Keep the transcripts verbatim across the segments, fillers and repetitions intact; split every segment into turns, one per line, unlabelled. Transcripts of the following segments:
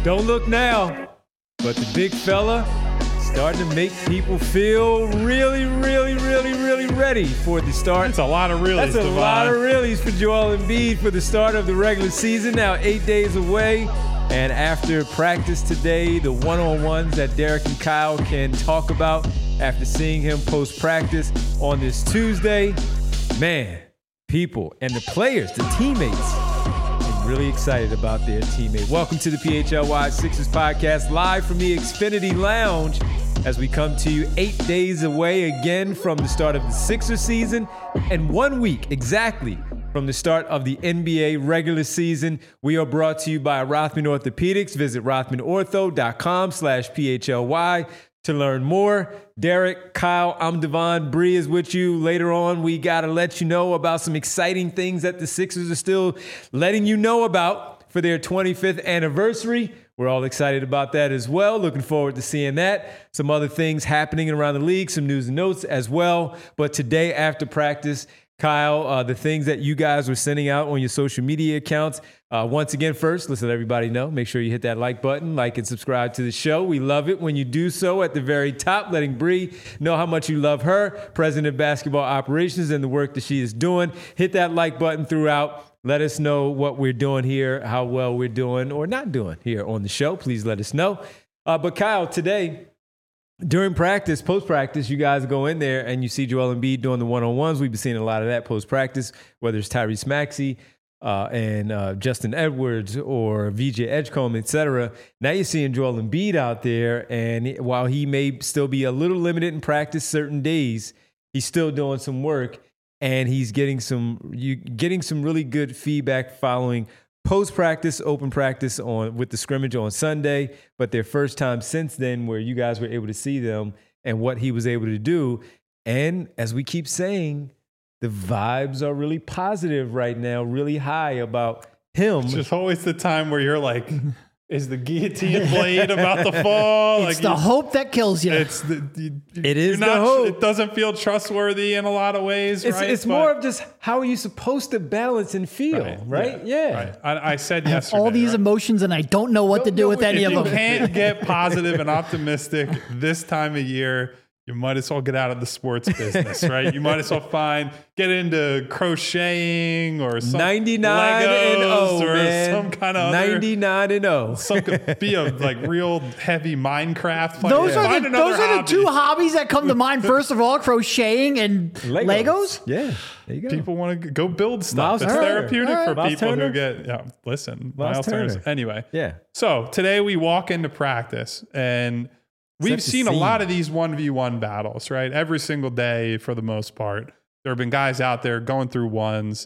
Don't look now, but the big fella starting to make people feel really, really, really, really ready for the start.
That's a lot of reallys,
That's a
Devon.
lot of reallys for Joel Embiid for the start of the regular season. Now eight days away. And after practice today, the one-on-ones that Derek and Kyle can talk about after seeing him post-practice on this Tuesday, man, people and the players, the teammates, I'm really excited about their teammate. Welcome to the P H L Y Sixers podcast, live from the Xfinity Lounge as we come to you eight days away again from the start of the Sixers season and one week exactly from the start of the N B A regular season. We are brought to you by Rothman Orthopedics. Visit rothmanortho.com slash PHLY to learn more. Derek, Kyle, I'm Devon. Bree is with you. Later on, we got to let you know about some exciting things that the Sixers are still letting you know about for their twenty-fifth anniversary. We're all excited about that as well. Looking forward to seeing that. Some other things happening around the league, some news and notes as well. But today after practice, Kyle, uh, the things that you guys were sending out on your social media accounts. Uh, once again, first, let's let everybody know. Make sure you hit that like button, like and subscribe to the show. We love it when you do so at the very top, letting Bree know how much you love her, President of Basketball Operations, and the work that she is doing. Hit that like button throughout. Let us know what we're doing here, how well we're doing or not doing here on the show. Please let us know. Uh, but Kyle, today, during practice, post-practice, you guys go in there and you see Joel Embiid doing the one-on-ones. We've been seeing a lot of that post-practice, whether it's Tyrese Maxey uh, and uh, Justin Edwards or V J Edgecombe, et cetera. Now you're seeing Joel Embiid out there, and while he may still be a little limited in practice certain days, he's still doing some work, and he's getting some you getting some really good feedback following post-practice, open practice on with the scrimmage on Sunday, but their first time since then where you guys were able to see them and what he was able to do. And as we keep saying, the vibes are really positive right now, really high about him.
It's just always the time where you're like, is the guillotine blade about to fall?
It's
like
the
you,
hope that kills you.
It's the, you,
It is
not,
the hope.
It doesn't feel trustworthy in a lot of ways,
It's,
right?
it's
But-
more of just how are you supposed to balance and feel, right?
Right.
Yeah.
Right. I, I said
I have
yesterday.
all these
right?
emotions and I don't know what
Don't
to do
know
with
what
any
to
of
If
do.
you
them.
can't get positive and optimistic this time of year, you might as well get out of the sports business, right? You might as well find, get into crocheting or some
ninety-nine
Legos
and oh,
or
man.
some kind of other,
ninety-nine and oh.
some could be a like real heavy Minecraft player.
Those
Find
are the
another
those are the
hobby.
two hobbies that come to mind. First of all, crocheting and Legos.
Yeah. There you go.
People want to go build stuff.
Miles
it's
Turner.
therapeutic
All right.
for
Miles
people
Turner.
who get, yeah, listen,
Miles
Miles Turner's.
Turner.
Anyway.
Yeah.
So today we walk into practice and we've
Set the
seen a
scene.
lot of these one v one battles, right? Every single day for the most part. There have been guys out there going through ones,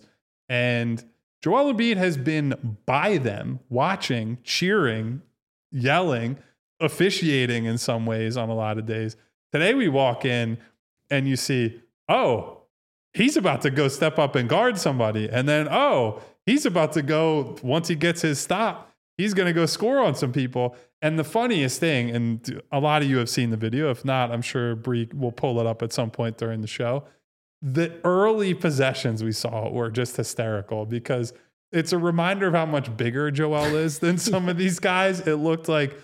and Joel Embiid has been by them, watching, cheering, yelling, officiating in some ways on a lot of days. Today we walk in and you see, oh, he's about to go step up and guard somebody. And then, oh, he's about to go, once he gets his stop, he's going to go score on some people. And the funniest thing, and a lot of you have seen the video. If not, I'm sure Bree will pull it up at some point during the show. The early possessions we saw were just hysterical because it's a reminder of how much bigger Joel is than some of these guys. It looked like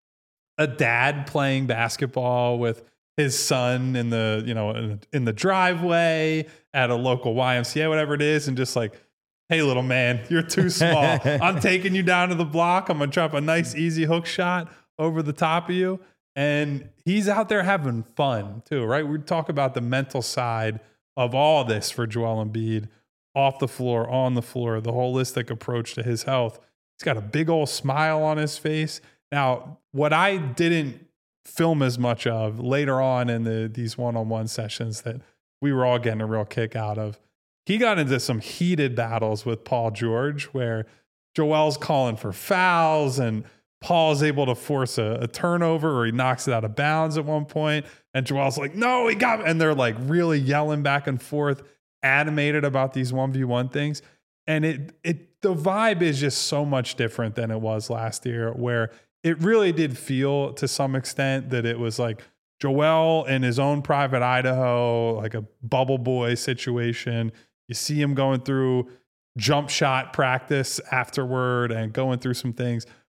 a dad playing basketball with his son in the, you know, in, in the driveway at a local Y M C A, whatever it is, and just like, hey, little man, you're too small. I'm taking you down to the block. I'm going to drop a nice, easy hook shot over the top of you. And he's out there having fun too, right? We talk about the mental side of all this for Joel Embiid, off the floor, on the floor, the holistic approach to his health. He's got a big old smile on his face. Now, what I didn't film as much of later on in the these one-on-one sessions that we were all getting a real kick out of, he got into some heated battles with Paul George where Joel's calling for fouls and Paul's able to force a, a turnover or he knocks it out of bounds at one point. And Joel's like, no, he got me. And they're like really yelling back and forth, animated about these one v one things. And it, it, the vibe is just so much different than it was last year, where it really did feel to some extent that it was like Joel in his own private Idaho, like a bubble boy situation. You see him going through jump shot practice afterward and going through some things.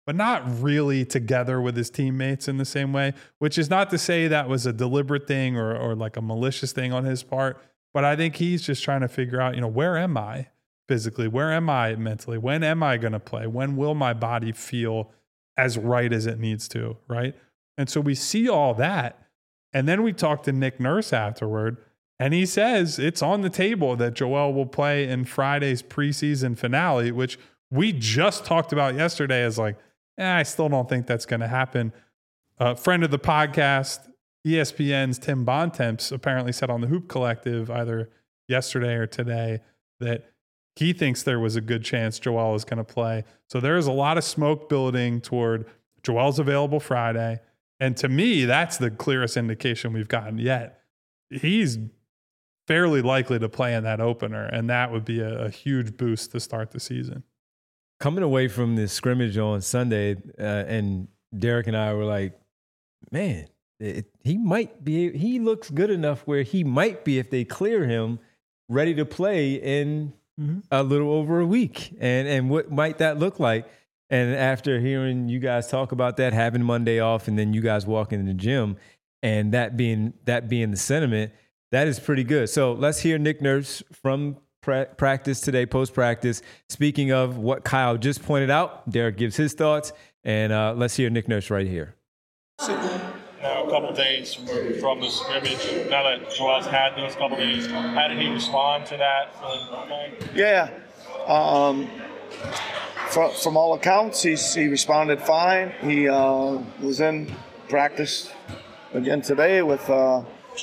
but not really together with his teammates in the same way, which is not to say that was a deliberate thing or, or like a malicious thing on his part. But I think he's just trying to figure out, you know, where am I physically? Where am I mentally? When am I going to play? When will my body feel as right as it needs to, right? And so we see all that. And then we talk to Nick Nurse afterward, and he says it's on the table that Joel will play in Friday's preseason finale, which we just talked about yesterday as like, eh, I still don't think that's going to happen. A uh, friend of the podcast, E S P N's Tim Bontemps, apparently said on the Hoop Collective either yesterday or today that he thinks there was a good chance Joel is going to play. So there is a lot of smoke building toward Joel's available Friday. And to me, that's the clearest indication we've gotten yet. He's fairly likely to play in that opener, and that would be a, a huge boost to start the season.
Coming away from this scrimmage on Sunday, uh, and Derek and I were like, man, it, he might be, he looks good enough where he might be, if they clear him, ready to play in mm-hmm. a little over a week. And and what might that look like? And after hearing you guys talk about that, having Monday off, and then you guys walking in the gym, and that being that being the sentiment, that is pretty good. So let's hear Nick Nurse from pra- practice today, post-practice. Speaking of what Kyle just pointed out, Derek gives his thoughts, and uh, let's hear Nick Nurse right here.
Now, a couple of days from, from the scrimmage, now that Joel's had those couple of days, how did he respond to that?
Yeah. Um, from, from all accounts, he's, he responded fine. He uh, was in practice again today with, uh,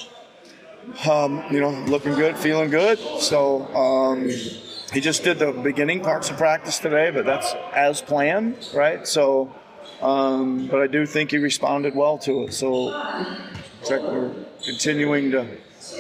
um, you know, looking good, feeling good. So um, he just did the beginning parts of practice today, but that's as planned, right? So, um, but I do think he responded well to it. So it's like we're continuing to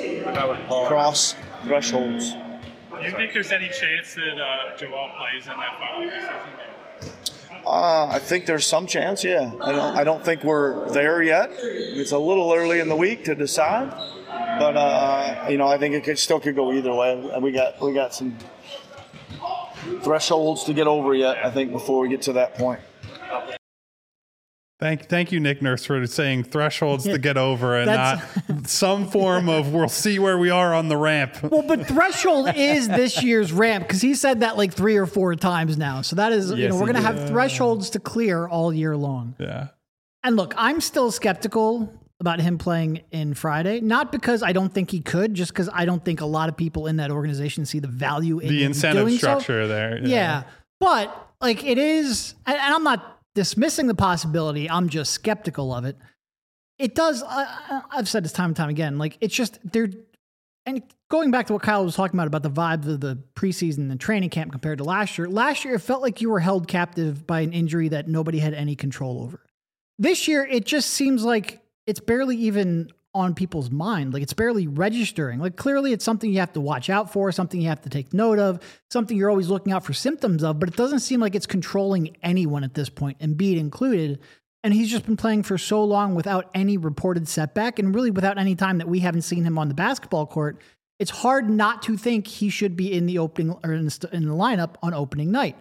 cross thresholds.
Do you think there's any chance that uh, Joel plays in that final season?
Uh, I think there's some chance, yeah. I don't, I don't think we're there yet. It's a little early in the week to decide, but uh, you know, I think it could, still could go either way. We got we got some thresholds to get over yet, I think, before we get to that point.
Thank, thank you, Nick Nurse, for saying thresholds to get over and not some form of we'll see where we are on the ramp.
Well, but threshold is this year's ramp because he said that like three or four times now. So that is, yes, you know, we're going to have thresholds to clear all year long.
Yeah.
And look, I'm still skeptical about him playing in Friday, not because I don't think he could, just because I don't think a lot of people in that organization see the value in
the incentive
doing
structure
so.
there.
Yeah. yeah. But like it is, and, and I'm not dismissing the possibility, I'm just skeptical of it. It does, uh, I've said this time and time again, like it's just, they're, and going back to what Kyle was talking about, about the vibes of the preseason and training camp compared to last year, last year it felt like you were held captive by an injury that nobody had any control over. This year, it just seems like it's barely even on people's mind. Like it's barely registering. Like clearly it's something you have to watch out for, something you have to take note of, something you're always looking out for symptoms of, but it doesn't seem like it's controlling anyone at this point, Embiid included. And he's just been playing for so long without any reported setback and really without any time that we haven't seen him on the basketball court. It's hard not to think he should be in the opening or in the, in the lineup on opening night.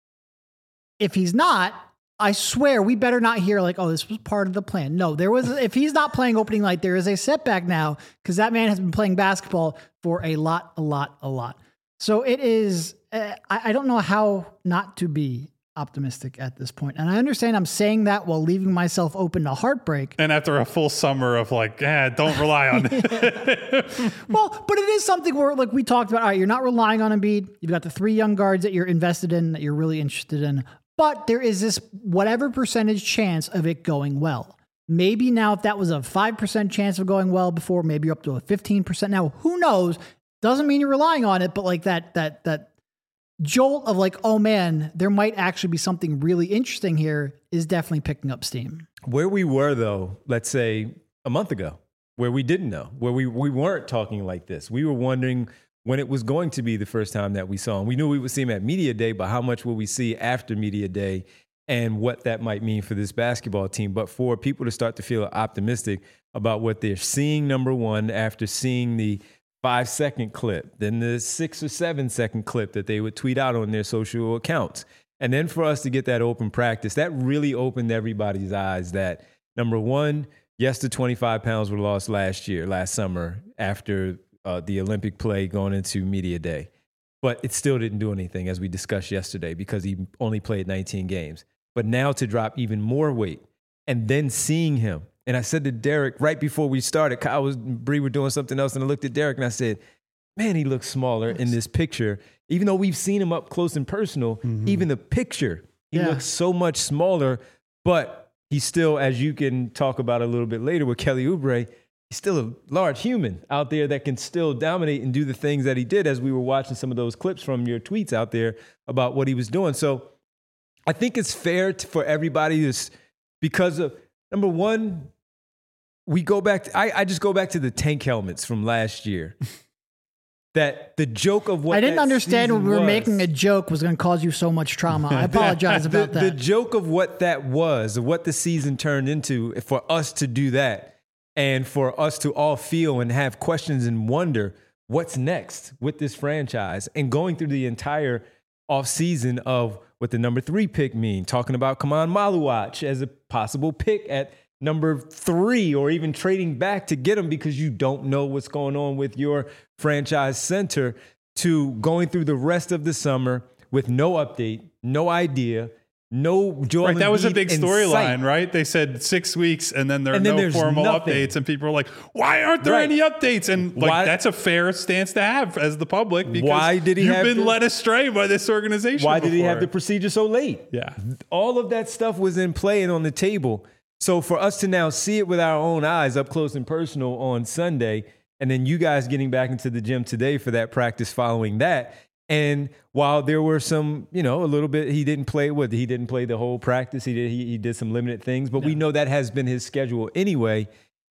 If he's not, I swear we better not hear like, oh, this was part of the plan. No, there was, if he's not playing opening night, there is a setback now because that man has been playing basketball for a lot, a lot, a lot. So it is, uh, I, I don't know how not to be optimistic at this point. And I understand I'm saying that while leaving myself open to heartbreak.
And after a full summer of like, eh, don't rely on it.
Well, but it is something where like we talked about, all right, you're not relying on Embiid. You've got the three young guards that you're invested in, that you're really interested in. But there is this whatever percentage chance of it going well. Maybe now if that was a five percent chance of going well before, maybe you're up to a fifteen percent. Now, who knows? Doesn't mean you're relying on it, but like that, that, that jolt of like, oh man, there might actually be something really interesting here is definitely picking up steam.
Where we were though, let's say a month ago, where we didn't know, where we, we weren't talking like this. We were wondering when it was going to be the first time that we saw him. We knew we would see him at Media Day, but how much will we see after Media Day and what that might mean for this basketball team? But for people to start to feel optimistic about what they're seeing, number one, after seeing the five-second clip, then the six or seven-second clip that they would tweet out on their social accounts, And then for us to get that open practice, that really opened everybody's eyes that, number one, yes, the twenty-five pounds were lost last year, last summer, after uh, the Olympic play going into media day. But it still didn't do anything, as we discussed yesterday, because he only played nineteen games. But now to drop even more weight and then seeing him. And I said to Derek right before we started, Kyle was, Bree were doing something else, and I looked at Derek and I said, man, he looks smaller in this picture. Even though we've seen him up close and personal, mm-hmm. even the picture, he yeah. looks so much smaller. But he's still, as you can talk about a little bit later with Kelly Oubre, he's still a large human out there that can still dominate and do the things that he did, as we were watching some of those clips from your tweets out there about what he was doing. So I think it's fair to, for everybody to, because of, number one, we go back to, I, I just go back to the tank helmets from last year. That the joke of what
I didn't understand when we were
was,
making a joke was going to cause you so much trauma. I apologize
the,
about that.
The joke of what that was, what the season turned into, for us to do that, and for us to all feel and have questions and wonder what's next with this franchise, and going through the entire offseason of what the number three pick mean, talking about Kaman Maluach as a possible pick at number three, or even trading back to get him because you don't know what's going on with your franchise center, to going through the rest of the summer with no update, no idea, no Joel
Right, that was a
Embiid
big
in
storyline,
sight.
right? They said six weeks and then there are
And then
no
there's
formal
nothing.
updates, and people are like, why aren't there
Right.
any updates? And like,
Why-
that's a fair stance to have as the public, because
Why did he
you've
have
been
to-
led astray by this organization.
Why did he have the
before.
procedure so late?
Yeah.
All of that stuff was in play and on the table. So for us to now see it with our own eyes up close and personal on Sunday, and then you guys getting back into the gym today for that practice following that. And while there were some, you know, a little bit, he didn't play what he didn't play the whole practice. He did he, he did some limited things, but no. we know that has been his schedule anyway.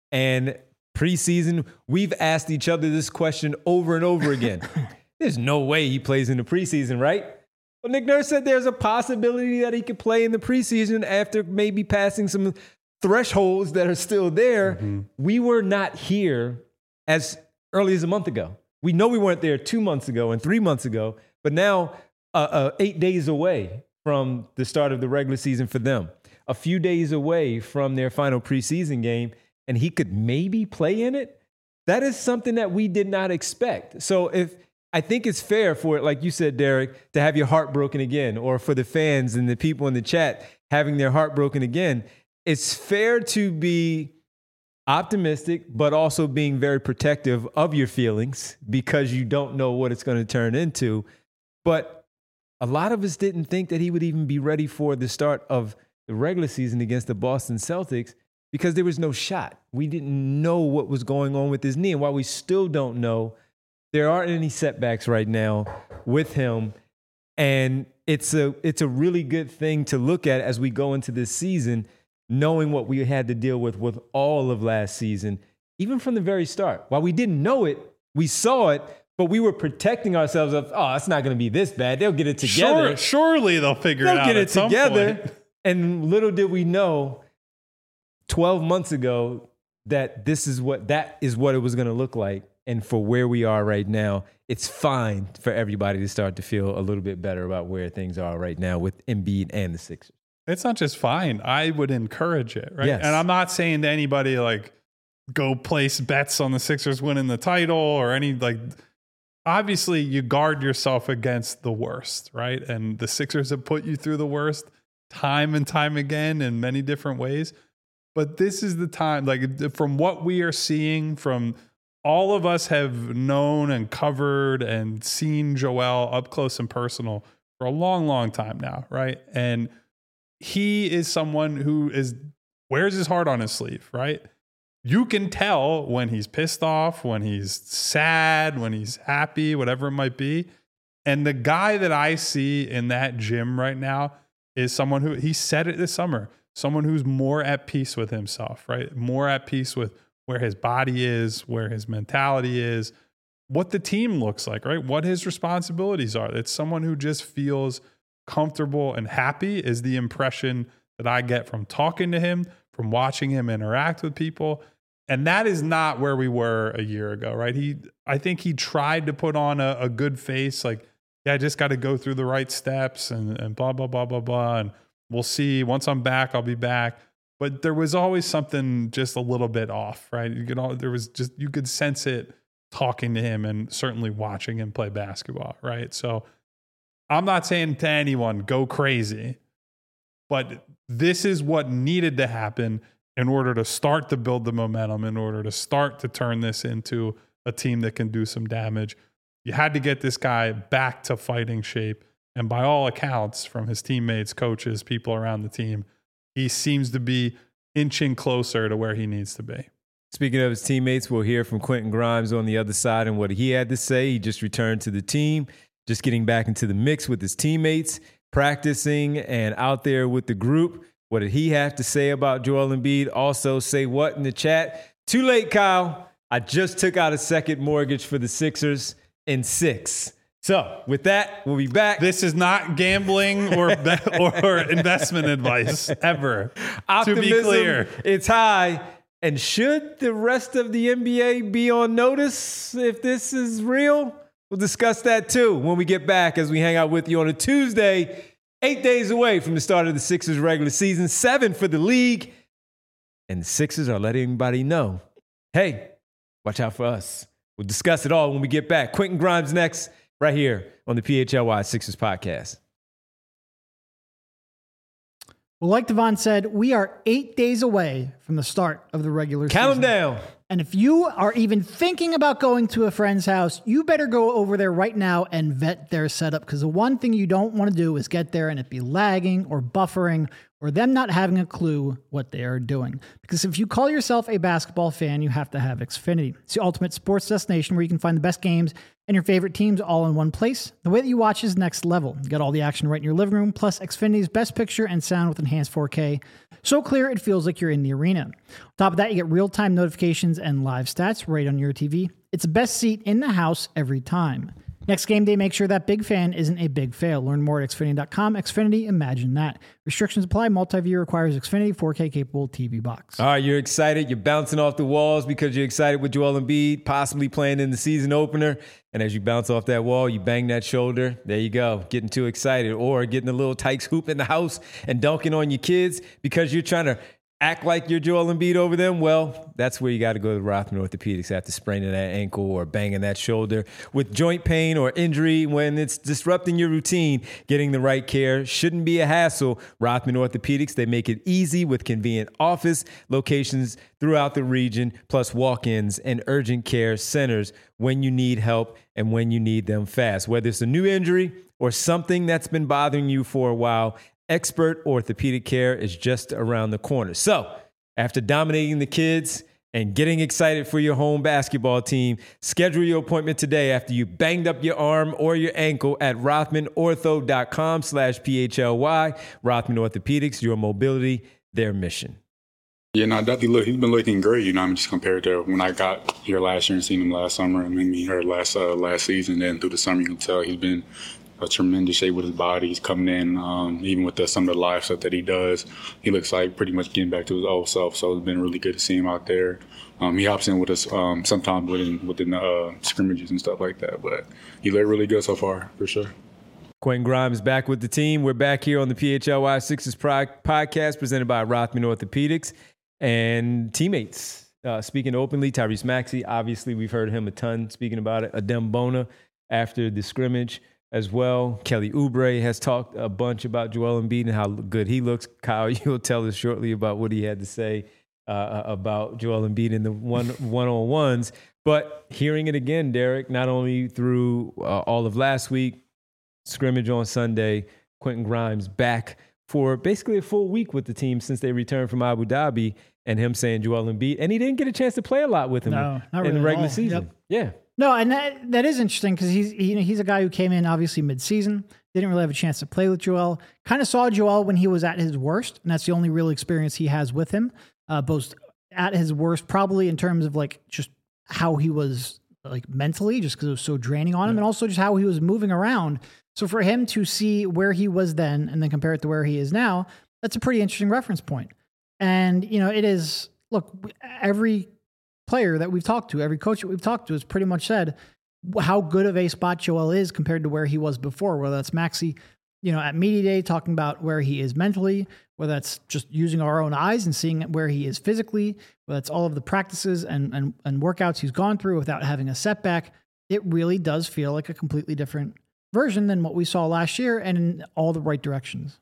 And preseason, we've asked each other this question over and over again. There's no way he plays in the preseason, right? Well, Nick Nurse said there's a possibility that he could play in the preseason after maybe passing some thresholds that are still there. Mm-hmm. We were not here as early as a month ago. We know we weren't there two months ago and three months ago, but now uh, uh, eight days away from the start of the regular season for them, a few days away from their final preseason game, and he could maybe play in it. That is something that we did not expect. So if I think it's fair for it, like you said, Derek, to have your heart broken again, or for the fans and the people in the chat having their heart broken again, it's fair to be optimistic, but also being very protective of your feelings because you don't know what it's going to turn into. But a lot of us didn't think that he would even be ready for the start of the regular season against the Boston Celtics because there was no shot. We didn't know what was going on with his knee. And while we still don't know, there aren't any setbacks right now with him. And it's a, it's a really good thing to look at as we go into this season, knowing what we had to deal with with all of last season, even from the very start. While we didn't know it, we saw it, but we were protecting ourselves of, oh, it's not going to be this bad. They'll get it together.
Sure, surely they'll figure
they'll
it out.
They'll get it
at some
together.
point.
And little did we know twelve months ago that this is what that is what it was going to look like. And for where we are right now, it's fine for everybody to start to feel a little bit better about where things are right now with Embiid and the Sixers.
It's not just fine. I would encourage it, right?
Yes.
And I'm not saying to anybody like go place bets on the Sixers winning the title or any like. Obviously, you guard yourself against the worst, right? And the Sixers have put you through the worst time and time again in many different ways. But this is the time, like from what we are seeing, from all of us have known and covered and seen Joel up close and personal for a long, long time now, right? And he is someone who is wears his heart on his sleeve, right? You can tell when he's pissed off, when he's sad, when he's happy, whatever it might be. And the guy that I see in that gym right now is someone who, he said it this summer, someone who's more at peace with himself, right? More at peace with where his body is, where his mentality is, what the team looks like, right? What his responsibilities are. It's someone who just feels comfortable and happy is the impression that I get from talking to him, from watching him interact with people. And that is not where we were a year ago, right? He, I think he tried to put on a, a good face. Like yeah, I just got to go through the right steps and, and blah, blah, blah, blah, blah. And we'll see. Once I'm back, I'll be back. But there was always something just a little bit off, right? You could all, there was just, you could sense it talking to him and certainly watching him play basketball, right? So I'm not saying to anyone, go crazy, but this is what needed to happen in order to start to build the momentum, in order to start to turn this into a team that can do some damage. You had to get this guy back to fighting shape. And by all accounts, from his teammates, coaches, people around the team, he seems to be inching closer to where he needs to be.
Speaking of his teammates, we'll hear from Quentin Grimes on the other side and what he had to say. He just returned to the team, just getting back into the mix with his teammates, practicing and out there with the group. What did he have to say about Joel Embiid? Also, say what in the chat? Too late, Kyle. I just took out a second mortgage for the Sixers in six. So with that, we'll be back.
This is not gambling or or investment advice ever.
Optimism,
to be clear,
it's high. And should the rest of the N B A be on notice if this is real? We'll discuss that too when we get back as we hang out with you on a Tuesday, eight days away from the start of the Sixers regular season, seven for the league. And the Sixers are letting everybody know, hey, watch out for us. We'll discuss it all when we get back. Quentin Grimes next, right here on the P H L Y Sixers podcast.
Well, like Devon said, we are eight days away from the start of the regular
Count
season.
them down.
And if you are even thinking about going to a friend's house, you better go over there right now and vet their setup, because the one thing you don't want to do is get there and it be lagging or buffering or them not having a clue what they are doing. Because if you call yourself a basketball fan, you have to have Xfinity. It's the ultimate sports destination where you can find the best games and your favorite teams all in one place. The way that you watch is next level. You got all the action right in your living room, plus Xfinity's best picture and sound with enhanced four K. So clear, it feels like you're in the arena. On top of that, you get real-time notifications and live stats right on your T V. It's the best seat in the house every time. Next game day, make sure that big fan isn't a big fail. Learn more at Xfinity dot com. Xfinity, imagine that. Restrictions apply. Multi-view requires Xfinity four K capable T V box.
All right, you're excited. You're bouncing off the walls because you're excited with Joel Embiid possibly playing in the season opener. And as you bounce off that wall, you bang that shoulder. There you go. Getting too excited. Or getting a little Tykes hoop in the house and dunking on your kids because you're trying to act like you're Joel Embiid over them. Well, that's where you got to go to Rothman Orthopedics after spraining that ankle or banging that shoulder. With joint pain or injury, when it's disrupting your routine, getting the right care shouldn't be a hassle. Rothman Orthopedics, they make it easy with convenient office locations throughout the region, plus walk-ins and urgent care centers when you need help and when you need them fast. Whether it's a new injury or something that's been bothering you for a while, expert orthopedic care is just around the corner. So, after dominating the kids and getting excited for your home basketball team, schedule your appointment today after you banged up your arm or your ankle at rothman ortho dot com slash P H L Y. Rothman Orthopedics, your mobility, their mission.
Yeah, no, definitely look, he's been looking great, you know, I mean, just compared to when I got here last year and seen him last summer and maybe here last uh, last season. Then through the summer, you can tell he's been a tremendous shape with his body. He's coming in, um, even with the, some of the live stuff that he does. He looks like pretty much getting back to his old self. So it's been really good to see him out there. Um, he hops in with us um, sometimes within, within the uh, scrimmages and stuff like that. But he looked really good so far, for sure.
Quentin Grimes back with the team. We're back here on the P H L Y Sixers podcast presented by Rothman Orthopedics and teammates. Uh, speaking openly, Tyrese Maxey, obviously we've heard him a ton speaking about it. Adem Bona after the scrimmage as well. Kelly Oubre has talked a bunch about Joel Embiid and how good he looks. Kyle, you'll tell us shortly about what he had to say uh, about Joel Embiid in the one, one-on-ones. But hearing it again, Derek, not only through uh, all of last week, scrimmage on Sunday, Quentin Grimes back for basically a full week with the team since they returned from Abu Dhabi, and him saying Joel Embiid. And he didn't get a chance to play a lot with him
no, not
in
really
the regular
at all.
season.
Yep.
Yeah.
No, and that, that is interesting because he's he, you know, he's a guy who came in obviously mid-season, didn't really have a chance to play with Joel. Kind of saw Joel when he was at his worst, and that's the only real experience he has with him. Uh, both at his worst, probably in terms of like just how he was like mentally, just because it was so draining on him, yeah. and also just how he was moving around. So for him to see where he was then and then compare it to where he is now, that's a pretty interesting reference point. And you know, it is. Look, every player that we've talked to, every coach that we've talked to has pretty much said, how good of a spot Joel is compared to where he was before, whether that's Maxey, you know, at media day talking about where he is mentally, whether that's just using our own eyes and seeing where he is physically, whether it's all of the practices and, and, and workouts he's gone through without having a setback. It really does feel like a completely different version than what we saw last year, and in all the right directions.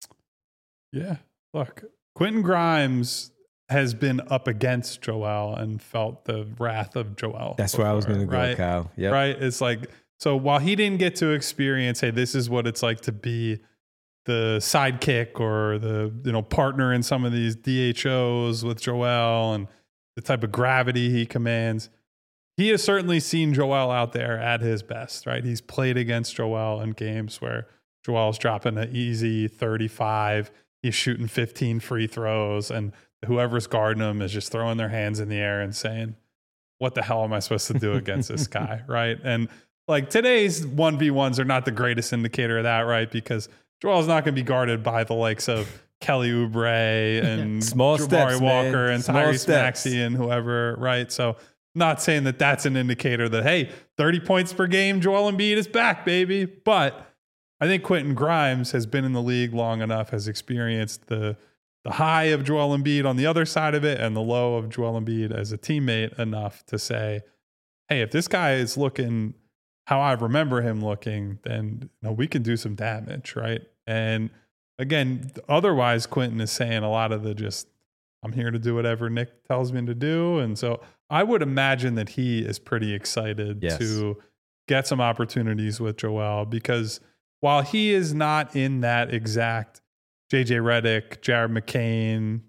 Yeah. Look, Quentin Grimes has been up against Joel and felt the wrath of Joel.
That's
before,
where I was going to go,
right?
Kyle. Yep.
Right. It's like, so while he didn't get to experience, hey, this is what it's like to be the sidekick or the, you know, partner in some of these D H Os with Joel and the type of gravity he commands, he has certainly seen Joel out there at his best, right? He's played against Joel in games where Joel's dropping an easy thirty-five. He's shooting fifteen free throws, and whoever's guarding him is just throwing their hands in the air and saying, what the hell am I supposed to do against this guy, right? And like today's one v ones are not the greatest indicator of that, right? Because Joel's not going to be guarded by the likes of Kelly Oubre and
Small
Jabari
steps,
Walker
man.
and
Small
Tyrese
steps.
Maxey and whoever, right? So not saying that that's an indicator that, hey, thirty points per game, Joel Embiid is back, baby. But I think Quentin Grimes has been in the league long enough, has experienced the the high of Joel Embiid on the other side of it and the low of Joel Embiid as a teammate enough to say, hey, if this guy is looking how I remember him looking, then you know, we can do some damage, right? And again, otherwise, Quentin is saying a lot of the just, I'm here to do whatever Nick tells me to do. And so I would imagine that he is pretty excited
Yes.
to get some opportunities with Joel, because while he is not in that exact J J Redick, Jared McCain,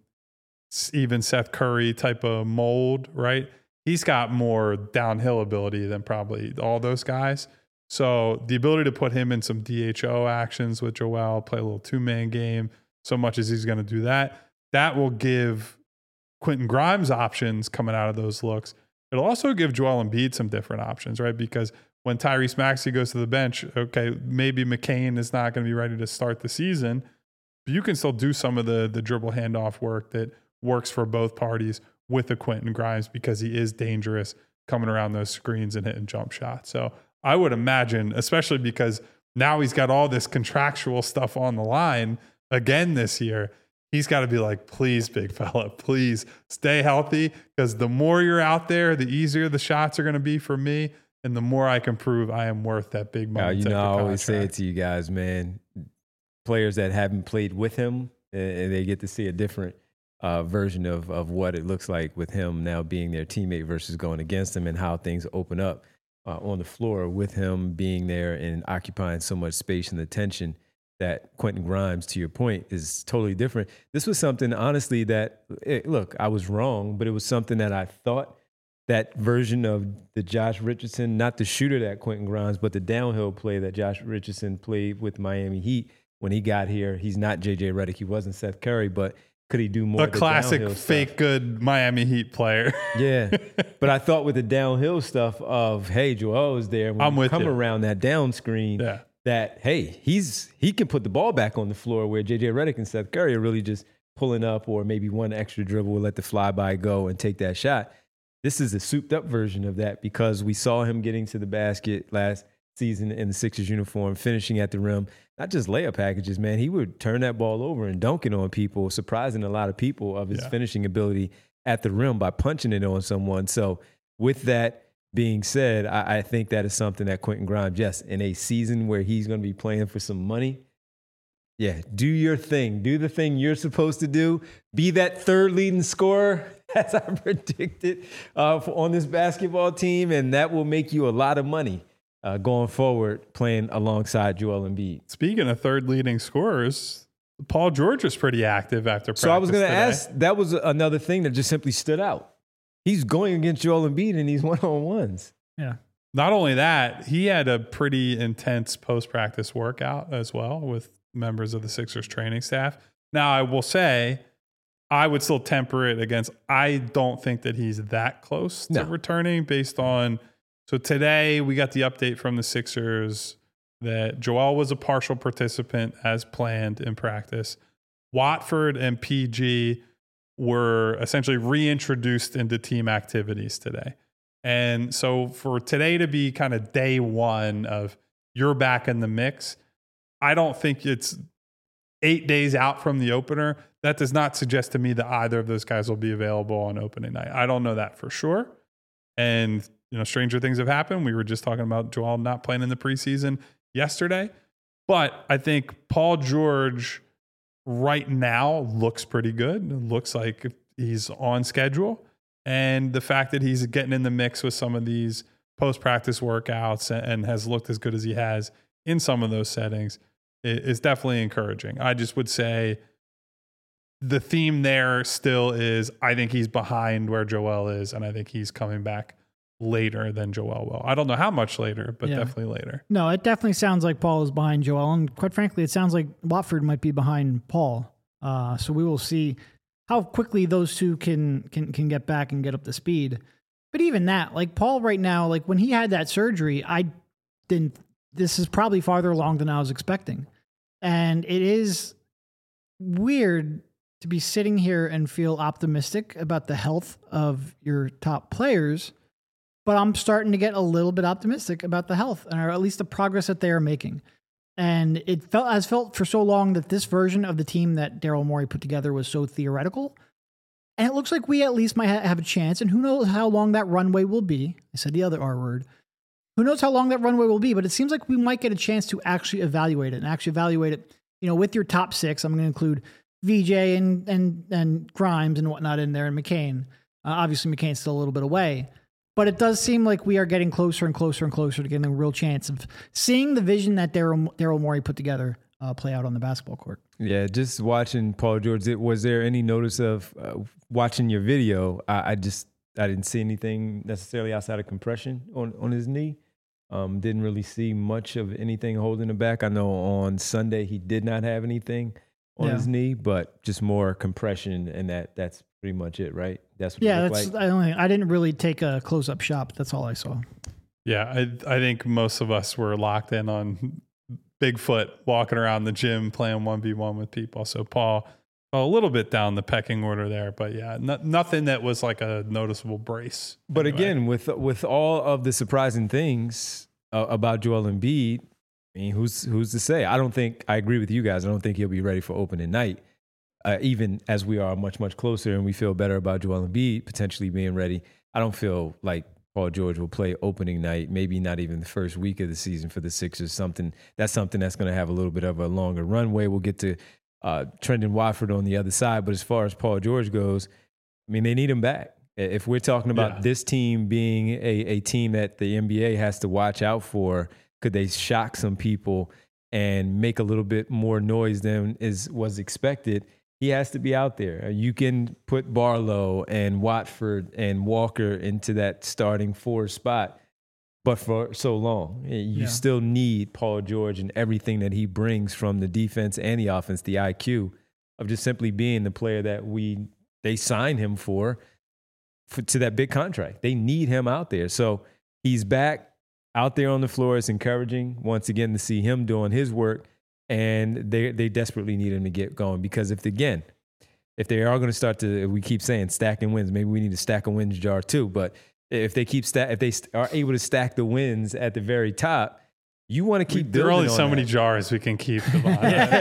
even Seth Curry type of mold, right? He's got more downhill ability than probably all those guys. So the ability to put him in some D H O actions with Joel, play a little two-man game, so much as he's going to do that, that will give Quentin Grimes options coming out of those looks. It'll also give Joel Embiid some different options, right? Because when Tyrese Maxey goes to the bench, okay, maybe McCain is not going to be ready to start the season, but you can still do some of the the dribble handoff work that works for both parties with a Quentin Grimes, because he is dangerous coming around those screens and hitting jump shots. So I would imagine, especially because now he's got all this contractual stuff on the line again this year, he's got to be like, please, big fella, please stay healthy, because the more you're out there, the easier the shots are going to be for me, and the more I can prove I am worth that big money.
Now, you
type
know,
of
I always say it
contract.
to you guys, man. Players that haven't played with him, and they get to see a different uh, version of of what it looks like with him now being their teammate versus going against him, and how things open up uh, on the floor with him being there and occupying so much space and attention. That Quentin Grimes, to your point, is totally different. This was something, honestly, that, it, look, I was wrong, but it was something that I thought that version of the Josh Richardson, not the shooter that Quentin Grimes, but the downhill play that Josh Richardson played with Miami Heat when he got here. He's not J J Redick. He wasn't Seth Curry, but could he do more?
A
of the
classic
downhill
fake
stuff?
good Miami Heat player.
Yeah. But I thought with the downhill stuff of, hey, Joel is there. When
I'm
you
with
come
you.
around that down screen,
Yeah.
that, hey, he's he can put the ball back on the floor, where J J Redick and Seth Curry are really just pulling up, or maybe one extra dribble will let the flyby go and take that shot. This is a souped up version of that, because we saw him getting to the basket last season in the Sixers uniform, finishing at the rim, not just layup packages, man. He would turn that ball over and dunk it on people, surprising a lot of people of his
Yeah.
finishing ability at the rim by punching it on someone. So with that being said, I, I think that is something that Quentin Grimes, yes, in a season where he's going to be playing for some money, yeah, do your thing. Do the thing you're supposed to do. Be that third leading scorer, as I predicted, uh, for, on this basketball team, and that will make you a lot of money uh, going forward playing alongside Joel Embiid.
Speaking of third leading scorers, Paul George was pretty active after practice.
So I was going to
today.
ask, that was another thing that just simply stood out. He's going against Joel Embiid in these one-on-ones.
Yeah.
Not only that, he had a pretty intense post-practice workout as well with members of the Sixers training staff. Now, I will say, I would still temper it against, I don't think that he's that close to
No.
returning based on, so today we got the update from the Sixers that Joel was a partial participant as planned in practice. Watford and P G were essentially reintroduced into team activities today. And so for today to be kind of day one of you're back in the mix, I don't think it's eight days out from the opener. That does not suggest to me that either of those guys will be available on opening night. I don't know that for sure. And, you know, stranger things have happened. We were just talking about Joel not playing in the preseason yesterday. But I think Paul George right now looks pretty good. It looks like he's on schedule. And the fact that he's getting in the mix with some of these post-practice workouts and has looked as good as he has in some of those settings is definitely encouraging. I just would say the theme there still is I think he's behind where Joel is, and I think he's coming back later than Joel will. I don't know how much later, but yeah. definitely later.
No, it definitely sounds like Paul is behind Joel, and quite frankly, it sounds like Watford might be behind Paul. Uh, so we will see how quickly those two can can can get back and get up to speed. But even that, like Paul right now, like when he had that surgery, I didn't. This is probably farther along than I was expecting, and it is weird to be sitting here and feel optimistic about the health of your top players. But I'm starting to get a little bit optimistic about the health, or at least the progress that they are making. And it felt has felt for so long that this version of the team that Daryl Morey put together was so theoretical. And it looks like we at least might ha- have a chance. And who knows how long that runway will be. I said the other R word. Who knows how long that runway will be, but it seems like we might get a chance to actually evaluate it and actually evaluate it, you know, with your top six. I'm going to include V J and, and, and Grimes and whatnot in there, and McCain. Uh, obviously McCain's still a little bit away. But it does seem like we are getting closer and closer and closer to getting a real chance of seeing the vision that Daryl Daryl Morey put together uh, play out on the basketball court.
Yeah, just watching Paul George. Was there any notice of uh, watching your video? I, I just I didn't see anything necessarily outside of compression on, on his knee. Um, didn't really see much of anything holding him back. I know on Sunday he did not have anything on yeah. his knee, but just more compression, and that that's pretty much it, right? That's what
yeah.
it
That's
like.
I only I didn't really take a close up shot. But that's all I saw.
Yeah, I I think most of us were locked in on Bigfoot walking around the gym playing one v one with people. So Paul a little bit down the pecking order there, but yeah, no, nothing that was like a noticeable brace.
But
anyway.
again, with with all of the surprising things uh, about Joel Embiid, I mean, who's who's to say? I don't think I agree with you guys. I don't think he'll be ready for opening night. Uh, even as we are much, much closer and we feel better about Joel Embiid potentially being ready, I don't feel like Paul George will play opening night, maybe not even the first week of the season for the Sixers. Something That's something that's going to have a little bit of a longer runway. We'll get to uh, Trendon Watford on the other side. But as far as Paul George goes, I mean, they need him back. If we're talking about yeah. this team being a, a team that the N B A has to watch out for, could they shock some people and make a little bit more noise than is was expected? He has to be out there. You can put Barlow and Watford and Walker into that starting four spot, but for so long, you yeah. still need Paul George and everything that he brings from the defense and the offense, the I Q of just simply being the player that we they signed him for, for to that big contract. They need him out there. So he's back out there on the floor. It's encouraging once again to see him doing his work. And they they desperately need him to get going, because if, again, if they are going to start to, we keep saying stacking wins, maybe we need to stack a wins jar too. But if they keep stack, if they are able to stack the wins at the very top, you want to keep
there
building.
There are only
on
so
that.
many jars we can keep. Them on.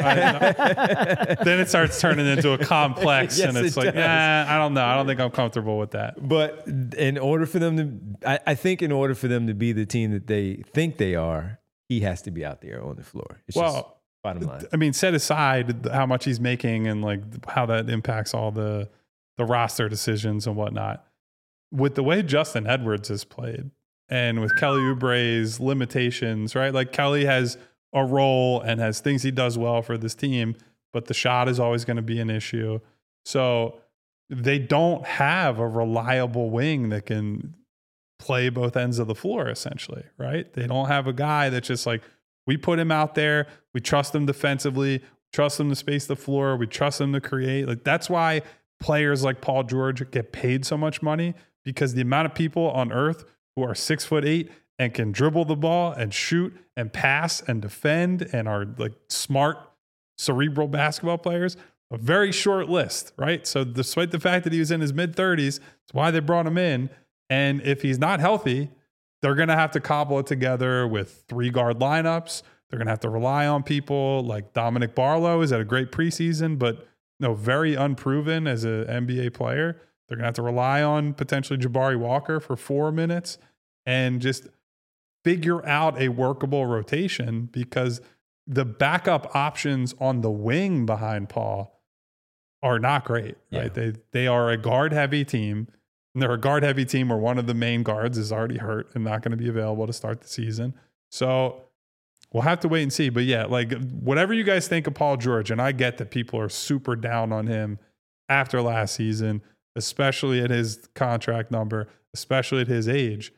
Then it starts turning into a complex,
yes,
and it's
it
like,
does.
nah, I don't know. I don't think I'm comfortable with that.
But in order for them to, I, I think in order for them to be the team that they think they are, he has to be out there on the floor. It's
well.
Just, bottom line.
I mean, set aside how much he's making and like how that impacts all the the roster decisions and whatnot. With the way Justin Edwards has played and with Kelly Oubre's limitations, right? Like Kelly has a role and has things he does well for this team, but the shot is always going to be an issue. So they don't have a reliable wing that can play both ends of the floor, essentially, right? They don't have a guy that's just like, we put him out there. We trust him defensively. Trust him to space the floor. We trust him to create. Like that's why players like Paul George get paid so much money, because the amount of people on earth who are six foot eight and can dribble the ball and shoot and pass and defend and are like smart, cerebral basketball players, a very short list, right? So despite the fact that he was in his mid thirties, that's why they brought him in. And if he's not healthy, they're going to have to cobble it together with three guard lineups. They're going to have to rely on people like Dominic Barlow is at a great preseason, but no, very unproven as an N B A player. They're going to have to rely on potentially Jabari Walker for four minutes and just figure out a workable rotation, because the backup options on the wing behind Paul are not great. Right? Yeah. They they are a guard heavy team. And they're a guard heavy team where one of the main guards is already hurt and not going to be available to start the season. So we'll have to wait and see. But yeah, like whatever you guys think of Paul George, and I get that people are super down on him after last season, especially at his contract number, especially at his age.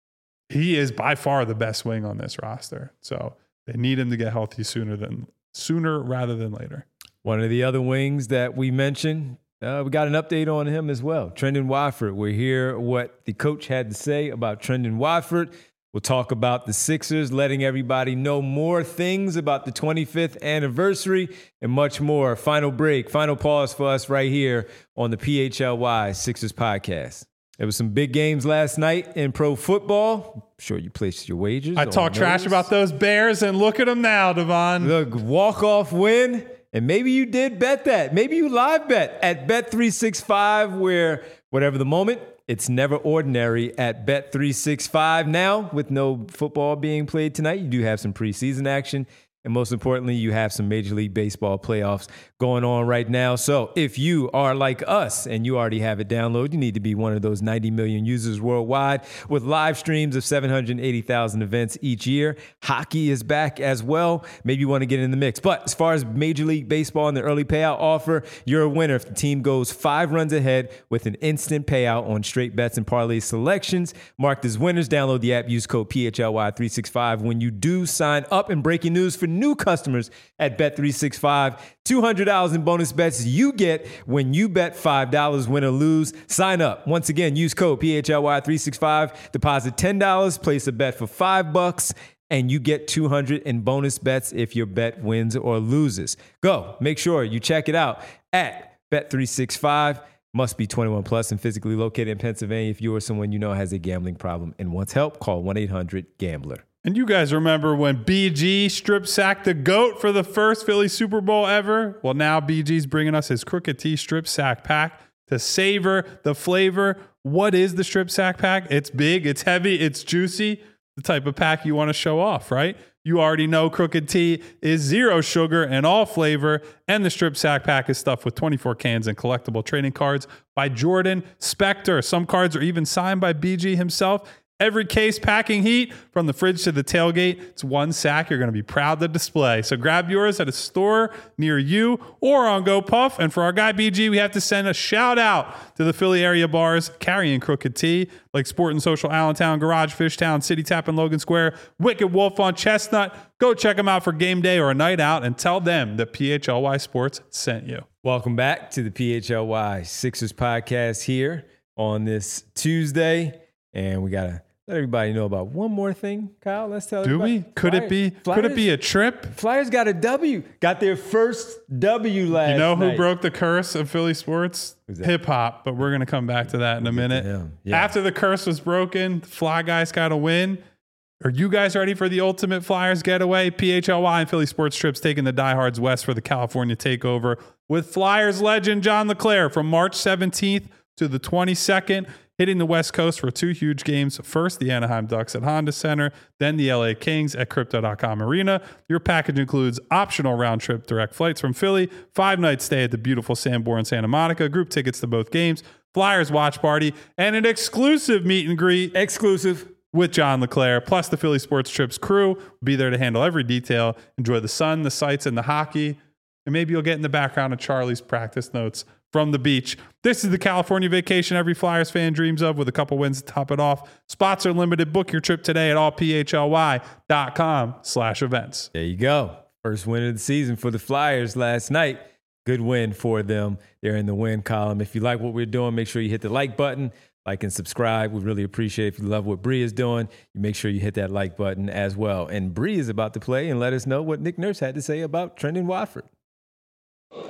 He is by far the best wing on this roster. So they need him to get healthy sooner than sooner rather than later.
One of the other wings that we mentioned, Uh, we got an update on him as well. Trendon Watford. We'll hear what the coach had to say about Trendon Watford. We'll talk about the Sixers, letting everybody know more things about the twenty-fifth anniversary and much more. Final break, final pause for us right here on the P H L Y Sixers podcast. There was some big games last night in pro football. I'm sure you placed your wagers.
I talk trash about those Bears, and look at them now, Devon.
The walk-off win. And maybe you did bet that. Maybe you live bet at Bet three sixty-five, where whatever the moment, it's never ordinary at Bet three sixty-five. Now, with no football being played tonight, you do have some preseason action. And most importantly, you have some Major League Baseball playoffs going on right now. So if you are like us and you already have it downloaded, you need to be one of those ninety million users worldwide with live streams of seven hundred eighty thousand events each year. Hockey is back as well. Maybe you want to get in the mix. But as far as Major League Baseball and the early payout offer, you're a winner if the team goes five runs ahead with an instant payout on straight bets and parlay selections. Marked as winners, download the app, use code P H L Y three sixty-five when you do sign up. And breaking news for new customers at Bet three sixty-five, two hundred dollars in bonus bets you get when you bet five dollars, win or lose. Sign up. Once again, use code P H L Y three sixty-five, deposit ten dollars, place a bet for five bucks, and you get two hundred in bonus bets if your bet wins or loses. Go. Make sure you check it out at Bet three sixty-five. Must be twenty-one plus and physically located in Pennsylvania. If you or someone you know has a gambling problem and wants help, call one eight hundred gambler.
And you guys remember when B G strip sacked the GOAT for the first Philly Super Bowl ever? Well, now B G's bringing us his Crooked T strip sack pack to savor the flavor. What is the strip sack pack? It's big, it's heavy, it's juicy. The type of pack you want to show off, right? You already know Crooked T is zero sugar and all flavor, and the strip sack pack is stuffed with twenty-four cans and collectible trading cards by Jordan Spector. Some cards are even signed by B G himself. Every case packing heat from the fridge to the tailgate. It's one sack you're going to be proud to display. So grab yours at a store near you or on GoPuff. And for our guy B G, we have to send a shout out to the Philly area bars carrying Crooked T, like Sport and Social Allentown, Garage, Fishtown, City Tap in Logan Square, Wicked Wolf on Chestnut. Go check them out for game day or a night out and tell them that P H L Y Sports sent you.
Welcome back to the P H L Y Sixers podcast here on this Tuesday. And we got to let everybody know about one more thing, Kyle. Let's tell
Do
everybody.
we? Could
Flyers,
it be?
Flyers,
could it be a trip?
Flyers got a W. Got their first W last night.
You know who
night.
broke the curse of Philly sports? Hip hop. But we're going to come back to that in a minute.
Yeah.
After the curse was broken, the Fly Guys got a win. Are you guys ready for the ultimate Flyers getaway? P H L Y and Philly Sports Trips taking the diehards west for the California takeover with Flyers legend John LeClair from March seventeenth to the twenty-second. Hitting the West Coast for two huge games. First, the Anaheim Ducks at Honda Center, then the L A Kings at Crypto dot com Arena. Your package includes optional round-trip direct flights from Philly, five-night stay at the beautiful Sanborn Santa Monica, group tickets to both games, Flyers watch party, and an exclusive meet and greet.
Exclusive.
With John LeClair, plus the Philly Sports Trips crew will be there to handle every detail. Enjoy the sun, the sights, and the hockey. And maybe you'll get in the background of Charlie's practice notes from the beach. This is the California vacation every Flyers fan dreams of, with a couple wins to top it off. Spots are limited. Book your trip today at all p h l y dot com slash events.
There you go. First win of the season for the Flyers last night. Good win for them. They're in the win column. If you like what we're doing, make sure you hit the like button. Like and subscribe. We really appreciate it. If you love what Bree is doing, you make sure you hit that like button as well. And Bree is about to play and let us know what Nick Nurse had to say about Trendon Watford.
Nick,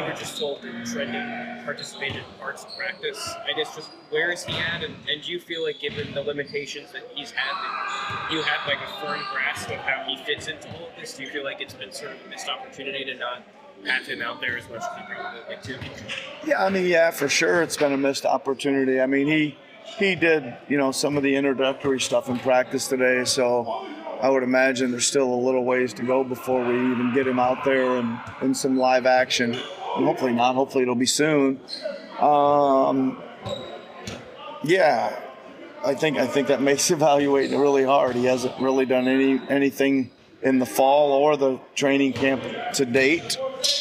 were just told that Trendon participated in parts of practice. I guess just where is he at, and, and do you feel like given the limitations that he's had, that you have like a firm grasp of how he fits into all of this? Do you feel like it's been sort of a missed opportunity to not have him out there as much as he probably would like to?
Yeah, I mean, yeah, for sure, it's been a missed opportunity. I mean, he he did, you know, some of the introductory stuff in practice today, so I would imagine there's still a little ways to go before we even get him out there and in some live action. And hopefully not. Hopefully it'll be soon. Um, yeah, I think I think that makes evaluating really hard. He hasn't really done any anything in the fall or the training camp to date.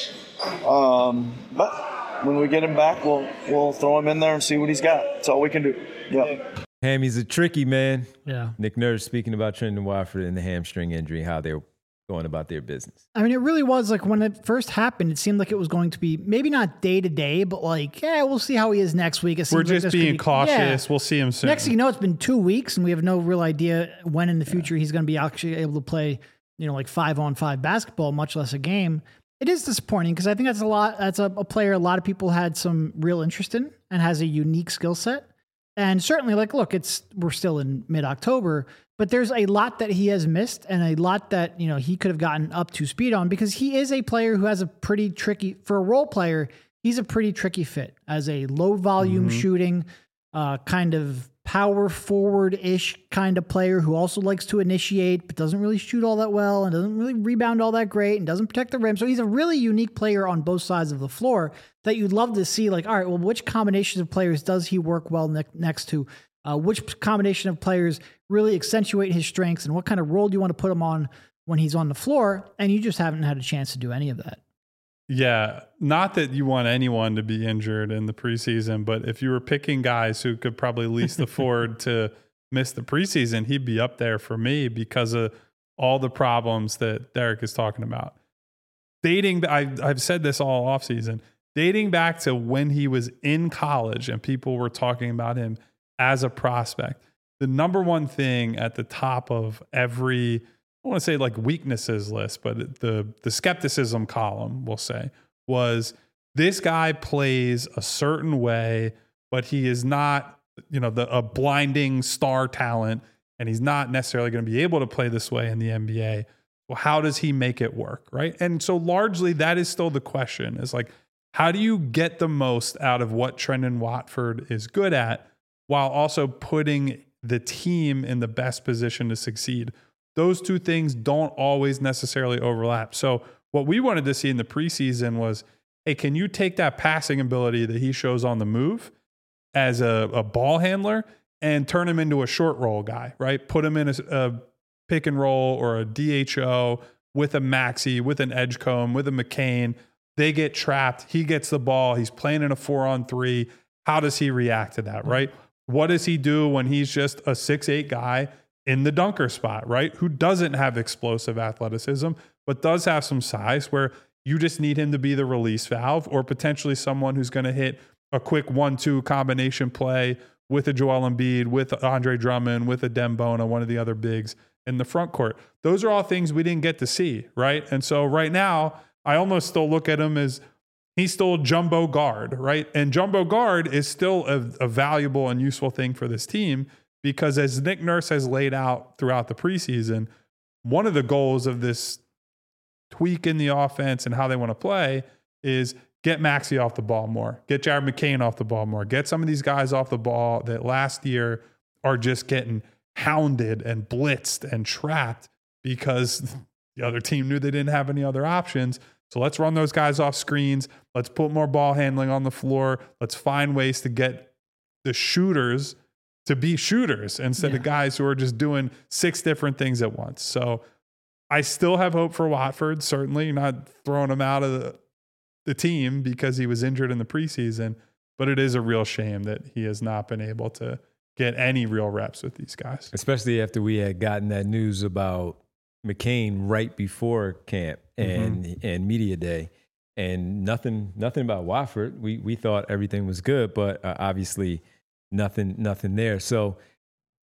Um, but when we get him back, we'll we'll throw him in there and see what he's got. That's all we can do. Yeah.
Ham, he's a tricky man.
Yeah.
Nick Nurse speaking about Trendon Watford and the hamstring injury, how they're going about their business.
I mean, it really was like when it first happened, it seemed like it was going to be maybe not day to day, but like, yeah, we'll see how he is next week. It
We're
seems like
just
there's
being
gonna be-
cautious.
yeah.
We'll see him soon.
Next thing you know, it's been two weeks and we have no real idea when in the future he's going to be actually able to play, you know, like five on five basketball, much less a game. It is disappointing because I think that's a lot. That's a, a player a lot of people had some real interest in and has a unique skill set. And certainly, like, look, it's we're still in mid-October, but there's a lot that he has missed and a lot that, you know, he could have gotten up to speed on because he is a player who has a pretty tricky, for a role player, he's a pretty tricky fit as a low-volume
Mm-hmm.
shooting, uh, kind of power forward-ish kind of player who also likes to initiate but doesn't really shoot all that well and doesn't really rebound all that great and doesn't protect the rim. So he's a really unique player on both sides of the floor that you'd love to see, like, all right, well, which combinations of players does he work well ne- next to? Uh, which combination of players really accentuate his strengths and what kind of role do you want to put him on when he's on the floor? And you just haven't had a chance to do any of that.
Yeah, not that you want anyone to be injured in the preseason, but if you were picking guys who could probably least afford to miss the preseason, he'd be up there for me because of all the problems that Derek is talking about. Dating, I, I've said this all offseason, dating back to when he was in college and people were talking about him as a prospect, the number one thing at the top of every I want to say like weaknesses list, but the the skepticism column, we'll say, was this guy plays a certain way, but he is not, you know, the a blinding star talent, and he's not necessarily going to be able to play this way in the N B A. Well, how does he make it work, right? And so largely that is still the question, is like, how do you get the most out of what Trendon Watford is good at while also putting the team in the best position to succeed? Those two things don't always necessarily overlap. So what we wanted to see in the preseason was, hey, can you take that passing ability that he shows on the move as a, a ball handler and turn him into a short roll guy, right? Put him in a, a pick and roll or a D H O with a Maxey, with an Edgecombe, with a McCain. They get trapped. He gets the ball. He's playing in a four on three. How does he react to that, right? What does he do when he's just a six eight guy in the dunker spot, right? Who doesn't have explosive athleticism, but does have some size where you just need him to be the release valve or potentially someone who's going to hit a quick one two combination play with a Joel Embiid, with Andre Drummond, with a Dembona, one of the other bigs in the front court. Those are all things we didn't get to see, right? And so right now, I almost still look at him as he's still a jumbo guard, right? And jumbo guard is still a, a valuable and useful thing for this team because as Nick Nurse has laid out throughout the preseason, one of the goals of this tweak in the offense and how they want to play is get Maxey off the ball more, get Jared McCain off the ball more, get some of these guys off the ball that last year are just getting hounded and blitzed and trapped because the other team knew they didn't have any other options. So let's run those guys off screens. Let's put more ball handling on the floor. Let's find ways to get the shooters to be shooters instead
Yeah.
of guys who are just doing six different things at once. So I still have hope for Watford, certainly not throwing him out of the, the team because he was injured in the preseason, but it is a real shame that he has not been able to get any real reps with these guys.
Especially after we had gotten that news about McCain right before camp and mm-hmm. and media day, and nothing nothing about Watford. We we thought everything was good, but uh, obviously nothing nothing there. So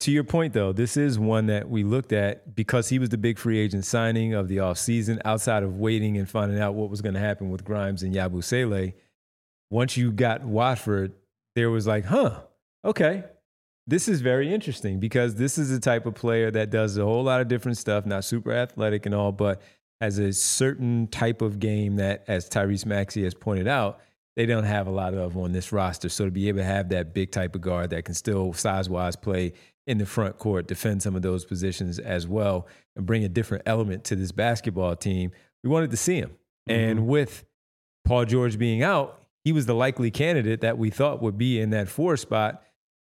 to your point, though, this is one that we looked at because he was the big free agent signing of the offseason outside of waiting and finding out what was going to happen with Grimes and Yabusele. Once you got Watford, there was like, huh, okay, this is very interesting because this is the type of player that does a whole lot of different stuff, not super athletic and all, but has a certain type of game that, as Tyrese Maxey has pointed out, they don't have a lot of on this roster. So to be able to have that big type of guard that can still size-wise play in the front court, defend some of those positions as well, and bring a different element to this basketball team, we wanted to see him. Mm-hmm. And with Paul George being out, he was the likely candidate that we thought would be in that four spot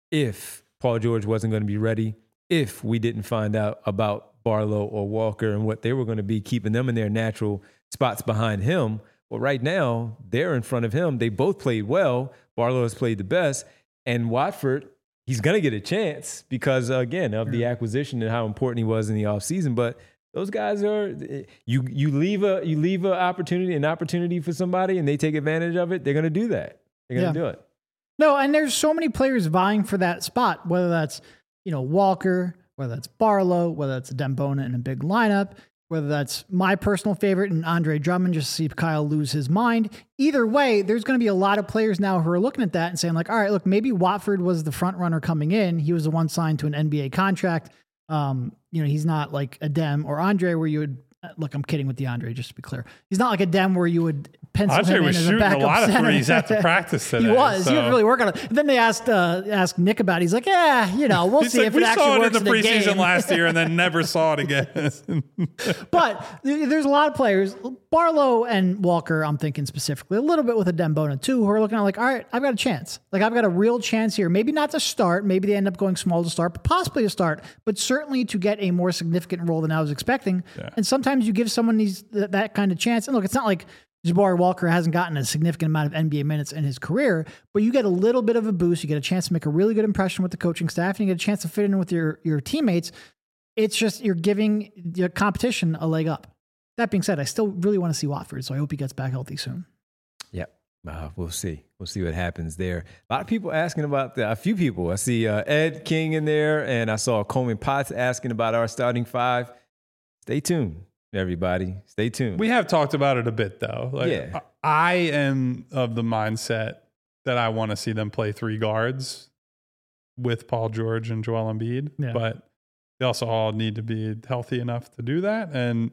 if Paul George wasn't going to be ready, if we didn't find out about Barlow or Walker and what they were going to be, keeping them in their natural spots behind him. Well, right now, they're in front of him. They both played well. Barlow has played the best. And Watford, he's going to get a chance because, again, of the acquisition and how important he was in the offseason. But those guys are you you leave a you leave an opportunity, an opportunity for somebody, and they take advantage of it, they're going to do that. They're going to
Yeah.
do it.
No, and there's so many players vying for that spot, whether that's, you know, Walker, whether that's Barlow, whether that's Dembona in a big lineup, whether that's my personal favorite and Andre Drummond, just to see Kyle lose his mind. Either way, there's going to be a lot of players now who are looking at that and saying like, all right, look, maybe Watford was the front runner coming in. He was the one signed to an N B A contract. Um, you know, he's not like a Dem or Andre where you would, look, I'm kidding with DeAndre, just to be clear. He's not like a Dem where you would pencil
Andre
him in
was
as a
shooting a
backup
lot of
center.
threes after practice today.
He was.
so.
He was really working on it. And then they asked uh, asked Nick about it. He's like, yeah, you know, we'll
He's
see
like,
if
we
it actually
saw it
works
in the
in the
preseason
game.
last year and then never saw it again.
But th- there's a lot of players, Barlow and Walker, I'm thinking specifically, a little bit with a Dembona too, who are looking at like, all right, I've got a chance. Like I've got a real chance here. Maybe not to start. Maybe they end up going small to start, but possibly to start, but certainly to get a more significant role than I was expecting.
Yeah.
And sometimes you give someone these th- that kind of chance. And look, it's not like Jabari Walker hasn't gotten a significant amount of N B A minutes in his career, but you get a little bit of a boost. You get a chance to make a really good impression with the coaching staff, and you get a chance to fit in with your, your teammates. It's just you're giving your competition a leg up. That being said, I still really want to see Watford, so I hope he gets back healthy soon.
Yep. Uh, we'll see. We'll see what happens there. A lot of people asking about that. A few people. I see uh, Ed King in there, and I saw Coleman Potts asking about our starting five. Stay tuned, everybody. Stay tuned.
We have talked about it a bit, though. Like,
Yeah.
I am of the mindset that I want to see them play three guards with Paul George and Joel Embiid,
Yeah.
but they also all need to be healthy enough to do that, and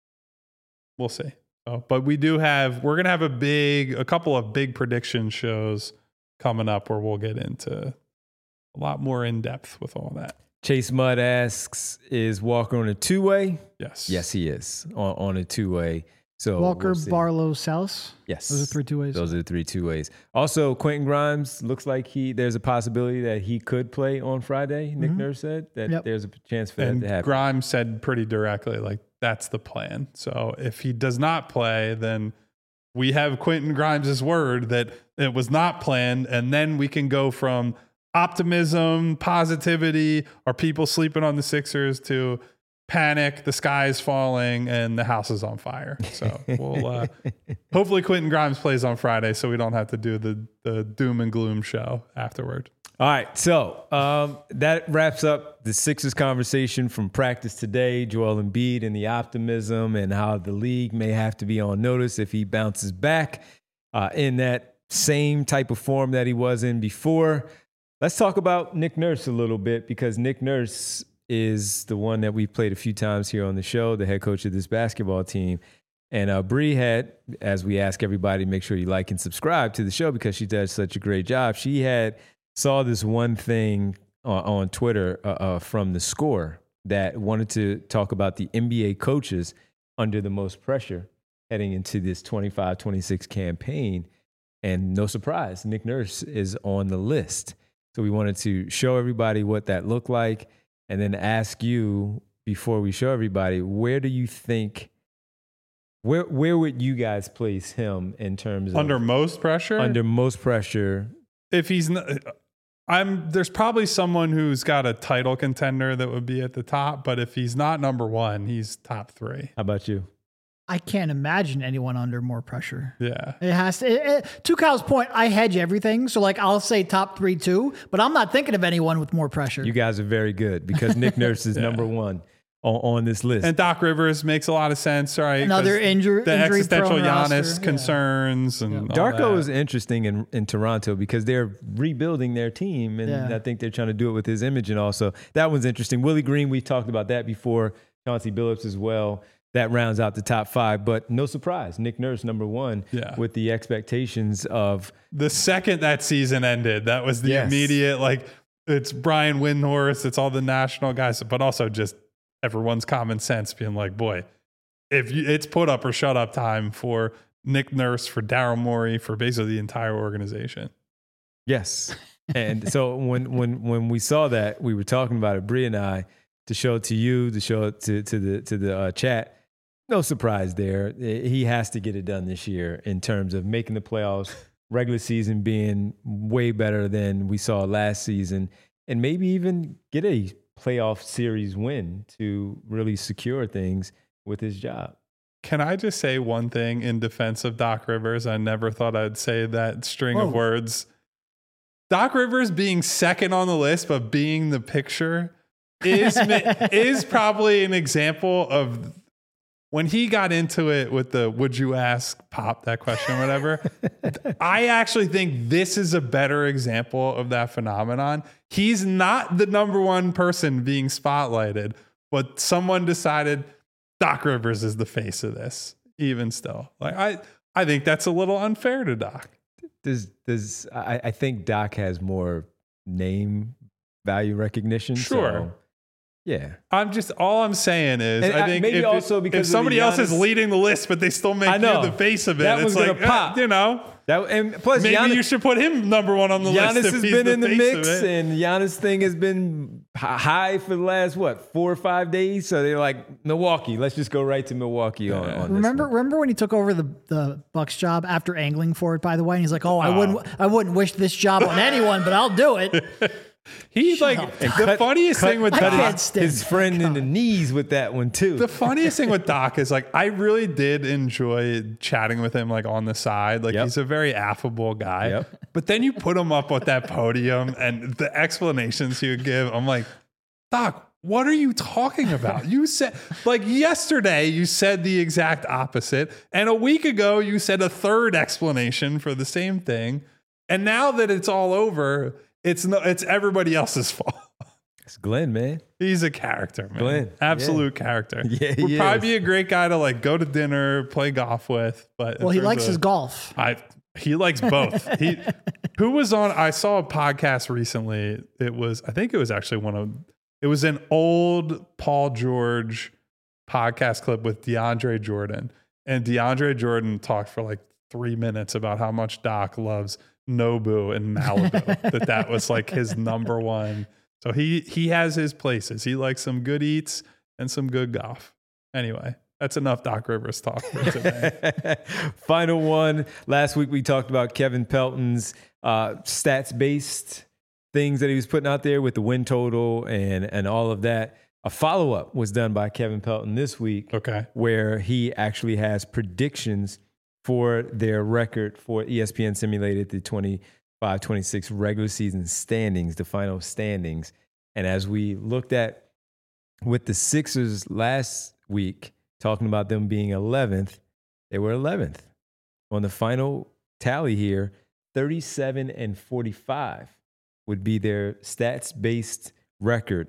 we'll see. So, but we do have, we're going to have a big, a couple of big prediction shows coming up where we'll get into a lot more in depth with all that.
Chase Mudd asks, is Walker on a two-way?
Yes.
Yes, he is on, on a two-way. So
Walker,
we'll see.
Barlow, Salas.
Yes.
Those are three two ways.
Those are the three two ways. Also, Quentin Grimes looks like he there's a possibility that he could play on Friday. Nick
Mhm.
Nurse said that
Yep.
there's a chance for
And
that to happen.
Grimes said pretty directly, like, that's the plan. So if he does not play, then we have Quentin Grimes' word that it was not planned. And then we can go from optimism, positivity, are people sleeping on the Sixers, to panic, the sky is falling, and the house is on fire. So we'll uh, hopefully Quentin Grimes plays on Friday so we don't have to do the, the doom and gloom show afterward.
All right, so um, that wraps up the Sixers conversation from practice today. Joel Embiid and the optimism and how the league may have to be on notice if he bounces back uh, in that same type of form that he was in before. Let's talk about Nick Nurse a little bit, because Nick Nurse is the one that we've played a few times here on the show, the head coach of this basketball team. And uh, Bree had, as we ask everybody, make sure you like and subscribe to the show because she does such a great job. She had saw this one thing on, on Twitter uh, uh, from The Score that wanted to talk about the N B A coaches under the most pressure heading into this twenty-five twenty-six campaign. And no surprise, Nick Nurse is on the list. So we wanted to show everybody what that looked like, and then ask you, before we show everybody, where do you think, where where would you guys place him in terms of
Under most pressure?
under most pressure?
If he's not, I'm there's probably someone who's got a title contender that would be at the top, but if he's not number one, he's top three.
How about you?
I can't imagine anyone under more pressure.
Yeah.
It has to. It, it, to Kyle's point, I hedge everything. So, like, I'll say top three, two, but I'm not thinking of anyone with more pressure.
You guys are very good because Nick Nurse is yeah. number one on, on this list.
And Doc Rivers makes a lot of sense, right?
Another injury,
the
injury
existential Giannis
roster.
concerns
yeah.
and
yeah.
Darko is interesting in, in Toronto because they're rebuilding their team, and yeah. I think they're trying to do it with his image, and also that one's interesting. Willie Green, we've talked about that before. Chauncey Billups as well. That rounds out the top five, but no surprise, Nick Nurse number one
yeah.
with the expectations of
the second that season ended. That was the
yes.
immediate, like, it's Brian Windhorst, it's all the national guys, but also just everyone's common sense being like, boy, if you, it's put up or shut up time for Nick Nurse, for Daryl Morey, for basically the entire organization.
Yes. And so when when when we saw that, we were talking about it, Bree and I, to show it to you, to show it to, to the to the uh, chat. No surprise there. He has to get it done this year in terms of making the playoffs, regular season being way better than we saw last season, and maybe even get a playoff series win to really secure things with his job.
Can I just say one thing in defense of Doc Rivers? I never thought I'd say that string
Whoa.
of words. Doc Rivers being second on the list, but being the picture is is probably an example of when he got into it with the would you ask Pop that question or whatever. I actually think this is a better example of that phenomenon. He's not the number one person being spotlighted, but someone decided Doc Rivers is the face of this, even still. Like I, I think that's a little unfair to Doc.
Does does I, I think Doc has more name value recognition.
Sure.
So, yeah.
I'm just all I'm saying is
and
I think
maybe
if,
also because
if somebody else is
Giannis,
leading the list, but they still make you the face of it,
that
it's
one's
like
gonna pop.
Eh, you know.
That, and plus,
maybe
Giannis,
you should put him number one on the
Giannis
list. Giannis
has
he's
been
the
in the
face
mix,
of it.
and Giannis' thing has been high for the last what four or five days. So they're like Milwaukee. Let's just go right to Milwaukee on.
Yeah.
on
remember,
this one.
remember when he took over the the Bucks job after angling for it? By the way, and he's like, "Oh, I oh. wouldn't, I wouldn't wish this job on anyone, but I'll do it."
He's
Shut
like
up.
the
cut,
funniest
cut,
thing with
I
Doc.
can't stand
His friend in the knees with that one too.
The funniest thing with Doc is like I really did enjoy chatting with him like on the side. Like
Yep.
he's a very affable guy.
Yep.
But then you put him up with that podium and the explanations he would give. I'm like, Doc, what are you talking about? You said like yesterday you said the exact opposite, and a week ago you said a third explanation for the same thing. And now that it's all over, it's no, it's everybody else's fault.
It's Glenn, man.
He's a character, man.
Glenn,
Absolute
yeah.
character.
Yeah, he
Would probably
is.
be a great guy to like go to dinner, play golf with. But in
Well, he
terms
likes
of-
his golf.
I he likes both. he who was on? I saw a podcast recently. It was I think it was actually one of it was an old Paul George podcast clip with DeAndre Jordan, and DeAndre Jordan talked for like three minutes about how much Doc loves Nobu and Malibu. that that was like his number one. So he he has his places. He likes some good eats and some good golf. Anyway, that's enough Doc Rivers talk for today.
Final one. Last week we talked about Kevin Pelton's uh, stats-based things that he was putting out there with the win total and and all of that. A follow-up was done by Kevin Pelton this week,
Okay.
where he actually has predictions for their record for E S P N simulated the twenty-five twenty-six regular season standings, the final standings. And as we looked at with the Sixers last week, talking about them being eleventh, they were eleventh. On the final tally here, thirty-seven and forty-five would be their stats-based record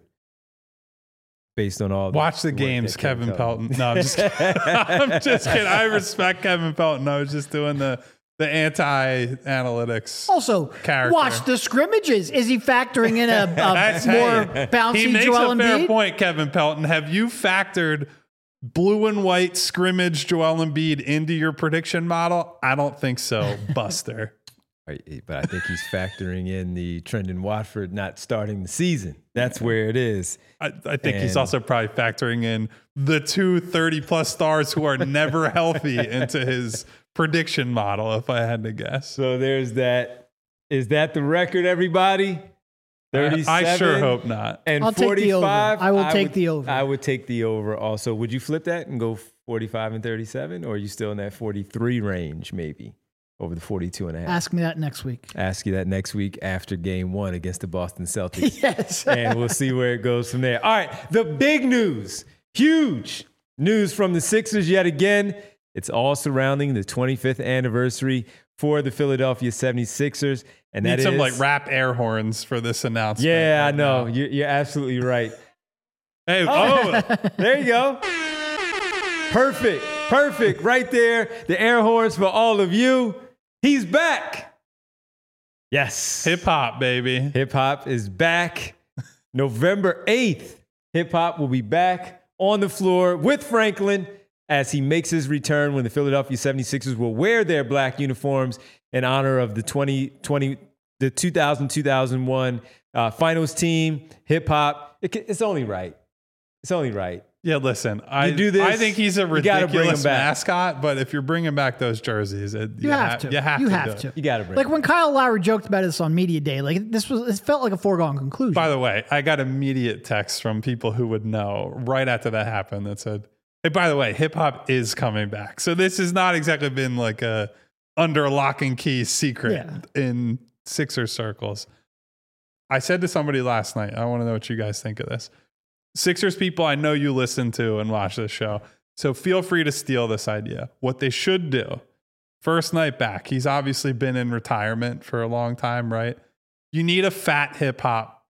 based on all
Watch the
work
games,
that
Kevin Pelton. No, I'm just kidding. I'm just kidding. I respect Kevin Pelton. I was just doing the the anti-analytics.
Also,
character.
watch the scrimmages. Is he factoring in a, a
That's
more
hey,
bouncy
He makes
Joel
a fair
Embiid?
point, Kevin Pelton. Have you factored blue and white scrimmage Joel Embiid into your prediction model? I don't think so, Buster.
Right, but I think he's factoring in the Trendon Watford not starting the season. That's where it is.
I, I think he's
And-
also probably factoring in the two thirty-plus stars who are never healthy into his prediction model, if I had to guess.
So there's that. Is that the record, everybody? thirty-seven
I sure hope not.
And
I'll take the over.
forty-five.
I will take
would,
the over.
I would take the over also. Would you flip that and go forty-five and thirty-seven, or are you still in that forty-three range maybe over the forty-two and a half?
Ask me that next week.
Ask you that next week after game one against the Boston Celtics.
Yes.
And we'll see where it goes from there. All right, the big news, huge news from the Sixers yet again. It's all surrounding the twenty-fifth anniversary for the Philadelphia seventy-sixers. And that
Need some
is,
like rap air horns for this announcement.
yeah,
right
I know.
now.
You're, you're absolutely right.
Hey, oh,
There you go. Perfect. Perfect. Right there. The air horns for all of you. He's back. Yes.
hip hop, baby.
Hip hop is back. November eighth. Hip hop will be back on the floor with Franklin as he makes his return when the Philadelphia seventy-sixers will wear their black uniforms in honor of the twenty twenty, the two thousand, two thousand one uh, finals team. Hip hop. It, it's only right. It's only right.
Yeah, listen, I
do this,
I think he's a
you gotta bring him
ridiculous
back.
mascot, but if you're bringing back those jerseys, it,
You have to.
You have
You
to.
have
do it.
to.
You got to bring
Like
it.
when Kyle Lowry joked about this on Media Day, like this was, it felt like a foregone conclusion.
By the way, I got immediate texts from people who would know right after that happened that said, hey, by the way, hip hop is coming back. So this has not exactly been like a under lock and key secret
Yeah.
in Sixers circles. I said to somebody last night, I want to know what you guys think of this. Sixers people, I know you listen to and watch this show. So feel free to steal this idea. What they should do, first night back, he's obviously been in retirement for a long time, right? You need a fat hip hop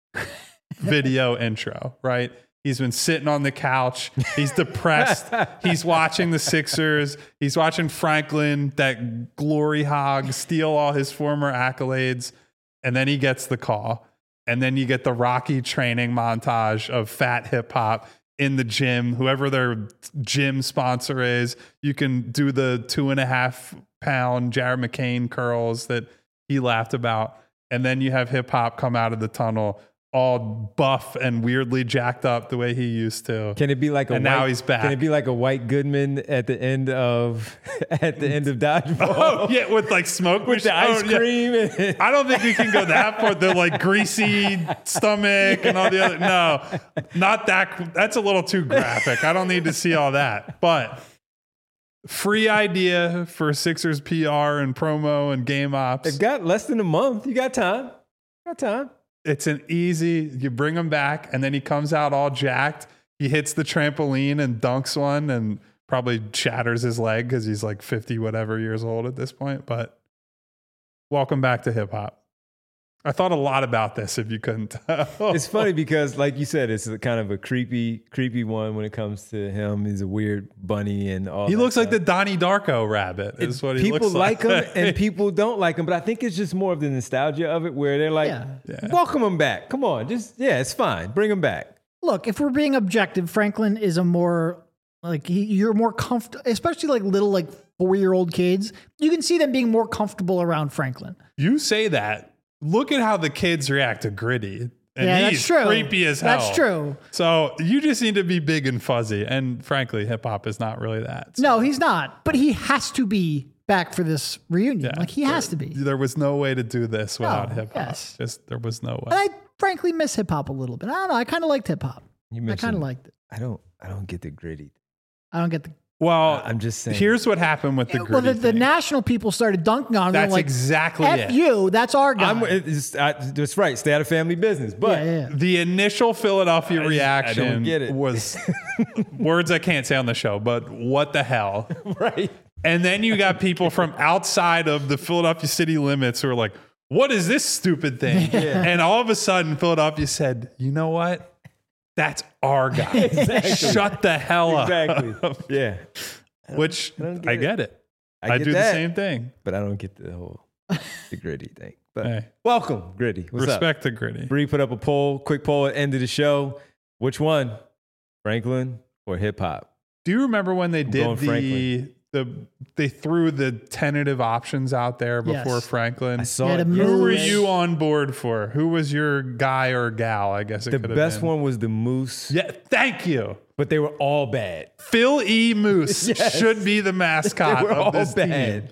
video intro, right? He's been sitting on the couch. He's depressed. He's watching the Sixers. He's watching Franklin, that glory hog, steal all his former accolades. And then he gets the call. And then you get the Rocky training montage of fat hip hop in the gym, whoever their gym sponsor is. You can do the two and a half pound Jared McCain curls that he laughed about. And then you have hip hop come out of the tunnel all buff and weirdly jacked up the way he used to.
Can it be like a
and
white,
now he's back.
Can it be like a White Goodman at the end of at the end of Dodgeball?
Oh, yeah, with like smoke
with the
machine-
ice
oh, yeah.
cream. And
I don't think we can go that far. The like greasy stomach and all the other. No, not that. That's a little too graphic. I don't need to see all that. But free idea for Sixers P R and promo and game ops.
They've got less than a month. You got time. Got time.
It's an easy, you bring him back and then he comes out all jacked. He hits the trampoline and dunks one and probably shatters his leg because he's like fifty whatever years old at this point. But welcome back to hip hop. I thought a lot about this, if you couldn't tell.
It's funny because, like you said, it's a kind of a creepy, creepy one when it comes to him. He's a weird bunny and all.
He
that
looks like the
stuff.
Donnie Darko rabbit. Is what he
People
looks
like
like.
him and people don't like him, but I think it's just more of the nostalgia of it, where they're like,
Yeah.
Yeah.
"Welcome him back. Come on, just yeah, it's fine. Bring him back."
Look, if we're being objective, Franklin is a more like he, you're more comfortable, especially like little like four year old kids. You can see them being more comfortable around Franklin.
You say that. Look at how the kids react to Gritty. And
Yeah,
he's
that's true.
creepy as hell.
That's true.
So you just need to be big and fuzzy. And frankly, hip hop is not really that. So,
No, he's not, but he has to be back for this reunion.
yeah,
like he
there-
has to be.
There was no way to do this without
No,
hip hop.
yes.
Just there was no way.
And I frankly miss hip hop a little bit. I don't know. I kind of liked hip hop.
You
I
mentioned,
kind of liked it.
I don't. I don't get the gritty.
I don't get the.
Well,
I'm just saying.
Here's what happened with the
well,
Gritty
the, the
thing.
national people started dunking on him. They're
That's
like,
exactly
F
it.
you. That's our guy.
I'm. It's, I, that's right. Stay out of family business. But
yeah, yeah.
The initial Philadelphia
I just- I
reaction
don't get it.
was words I can't say on the show, but what the hell?
right.
And then you got people from outside of the Philadelphia city limits who are like, what is this stupid thing? And all of a sudden, Philadelphia said, you know what? That's our guy.
Exactly.
Shut the hell up.
Exactly. Yeah.
Which
I
I,
don't get
get
it.
it.
I
I,
get
do
that.
the same thing.
But I don't get the whole the gritty thing. But
Hey.
welcome, gritty. What's
Respect
up?
the Gritty.
Bree put up a poll, quick poll at the end of the show. Which one, Franklin or hip hop?
Do you remember when they
going
did the
Franklin.
the they threw the tentative options out there before
Yes.
Franklin?
I saw
Yeah,
it.
the
Who
Moose.
were
yesterday.
you on board for? Who was your guy or gal? I guess it
The
could have
best
been.
one was the Moose,
Yeah, thank you.
but they were all bad.
Phil E. Moose
Yes.
should be the mascot
They were all
of this
bad.
team.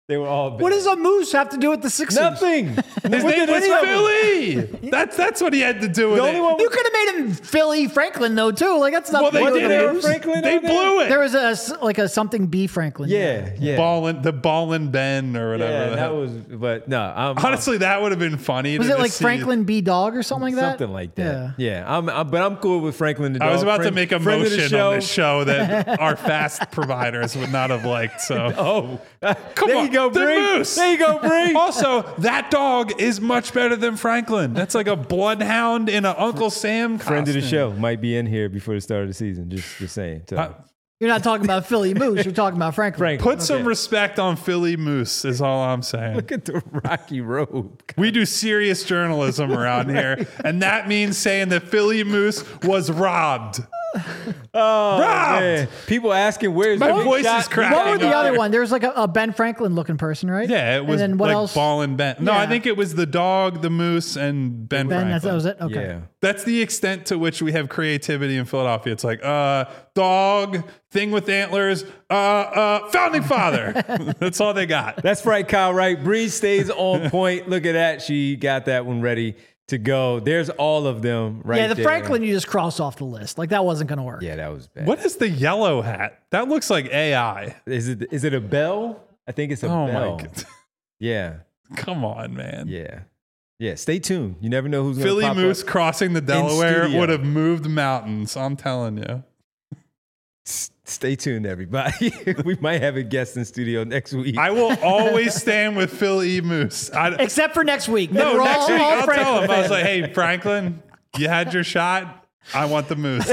They were all bad.
What does a moose have to do with the Sixers?
Nothing.
His name was Philly. That's that's what he had to do with
The only
it.
one
You could have made him Philly Franklin though too. Like that's not.
Well, they
what
did
the
it.
moose.
Franklin
They
on there?
blew it.
There was a like a something B Franklin.
Yeah, yeah.
Ballin', the Ballin' Ben or whatever.
Yeah,
the
that
hell.
was, but no, I'm,
Honestly, that would have been funny.
Was
to
it like
just see-
Franklin B Dog or something like that?
something like that. Yeah, I'm, I'm, but I'm cool with Franklin the dog.
I was about
Friend-
to make a
friend of the
motion
show.
on this show that our fast providers would not have liked. So,
Oh,
come
there
on,
you go,
the
Bree.
moose.
There you go, Bree.
Also, that dog is much better than Franklin. That's like a bloodhound in an Uncle Sam costume.
Friend of the show might be in here before the start of the season. Just, just saying. So,
Uh,
You're not talking about Philly Moose. You're talking about Franklin.
Frank,
Put some respect on Philly Moose is all I'm saying.
look at the Rocky Road.
We do serious journalism around here, and that means saying that Philly Moose was robbed.
Oh,
Robbed!
man. People asking where's
My
Big
voice
Shot?
is cracking.
What were the
up
other
there.
one? There was like a, a Ben Franklin looking person, right?
Yeah, it was
And then what
like
else?
Ballin' Ben. No, I
Yeah.
think it was the dog, the moose, and Ben,
Ben,
Franklin.
that's, that was it. Okay.
Yeah.
That's the extent to which we have creativity in Philadelphia. It's like, uh, dog, thing with antlers, uh, uh, founding father. That's all they got.
That's right, Kyle. Right. Bree stays on point. Look at that. She got that one ready to go. There's all of them right
Yeah, the
there.
Franklin you just cross off the list. Like that wasn't going to work.
Yeah, that was bad.
What is the yellow hat? That looks like A I.
Is it? Is it a bell? I think it's a
Oh
bell.
my god!
Yeah.
Come on, man.
Yeah. Yeah. Stay tuned. You never know who's going to
Philly
pop
Moose
up.
crossing the Delaware
studio.
would have moved mountains. I'm telling you.
S- Stay tuned, everybody. We might have a guest in studio next week.
I will always stand with Philly Moose. I,
Except for next week.
no,
Then we're
next
all,
week
all
I'll
Franklin
tell him. I was
fans.
like, hey, Franklin, you had your shot. I want the Moose.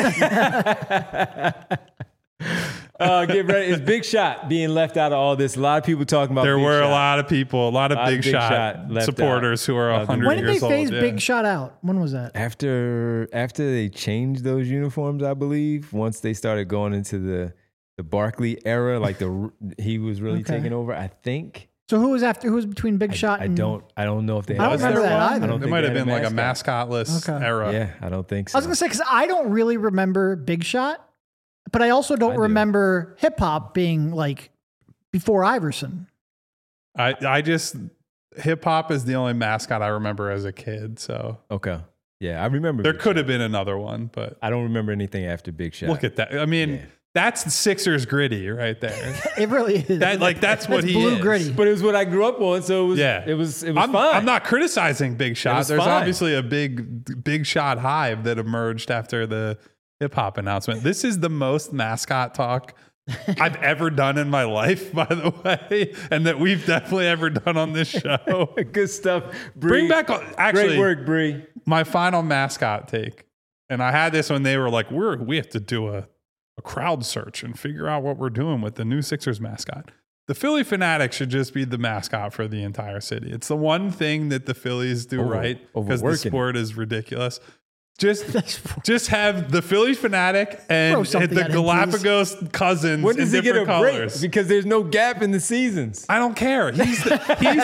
uh, get ready. It's Big Shot being left out of all this. A lot of people talking about
There
Big
were
Shot.
a lot of people, a lot of
Lot of
Big,
Big
Shot,
Shot left
supporters
out.
who are
Uh,
one hundred
when did they
years old.
phase
yeah.
Big Shot out? When was that?
After after they changed those uniforms, I believe, once they started going into the the Barkley era, like the he was really
Okay.
taking over. I think.
So who was after? Who was between Big
I,
Shot
I
and?
don't. I don't know if they.
I don't
had
remember
one.
that
I
either.
don't
There
think
might
they
have
had
been like a
mascot.
mascotless
Okay.
era.
Yeah, I don't think so.
I was gonna say because I don't really remember Big Shot, but I also don't
I do.
remember hip hop being like before Iverson.
I, I just hip hop is the only mascot I remember as a kid. So
Okay. Yeah, I remember.
there
Big
could
Shot.
have been another one, but
I don't remember anything after Big Shot.
look at that. I mean,
Yeah.
that's the Sixers gritty right there.
It really is.
That like that's what he
blue
is.
gritty.
But it was what I grew up on, so it was.
Yeah.
It was. It was
I'm,
fine.
I'm not criticizing Big Shot.
was
There's
fine.
obviously a big Big Shot hive that emerged after the hip hop announcement. This is the most mascot talk I've ever done in my life, by the way, and that we've definitely ever done on this show.
Good stuff.
Bring
Bree.
back actually
Great work, Bree.
my final mascot take. And I had this when they were like, we're we have to do a, a crowd search and figure out what we're doing with the new Sixers mascot. The Philly Fanatic should just be the mascot for the entire city. It's the one thing that the Phillies do
Over-
right because the
overworking it.
sport is ridiculous. Just,
That's-
just have the Philly Fanatic
Throw
and
something
the
at him,
Galapagos cousins
When does
in
he get a
different colors.
break? Because there's no gap in the seasons.
I don't care. He's the, he's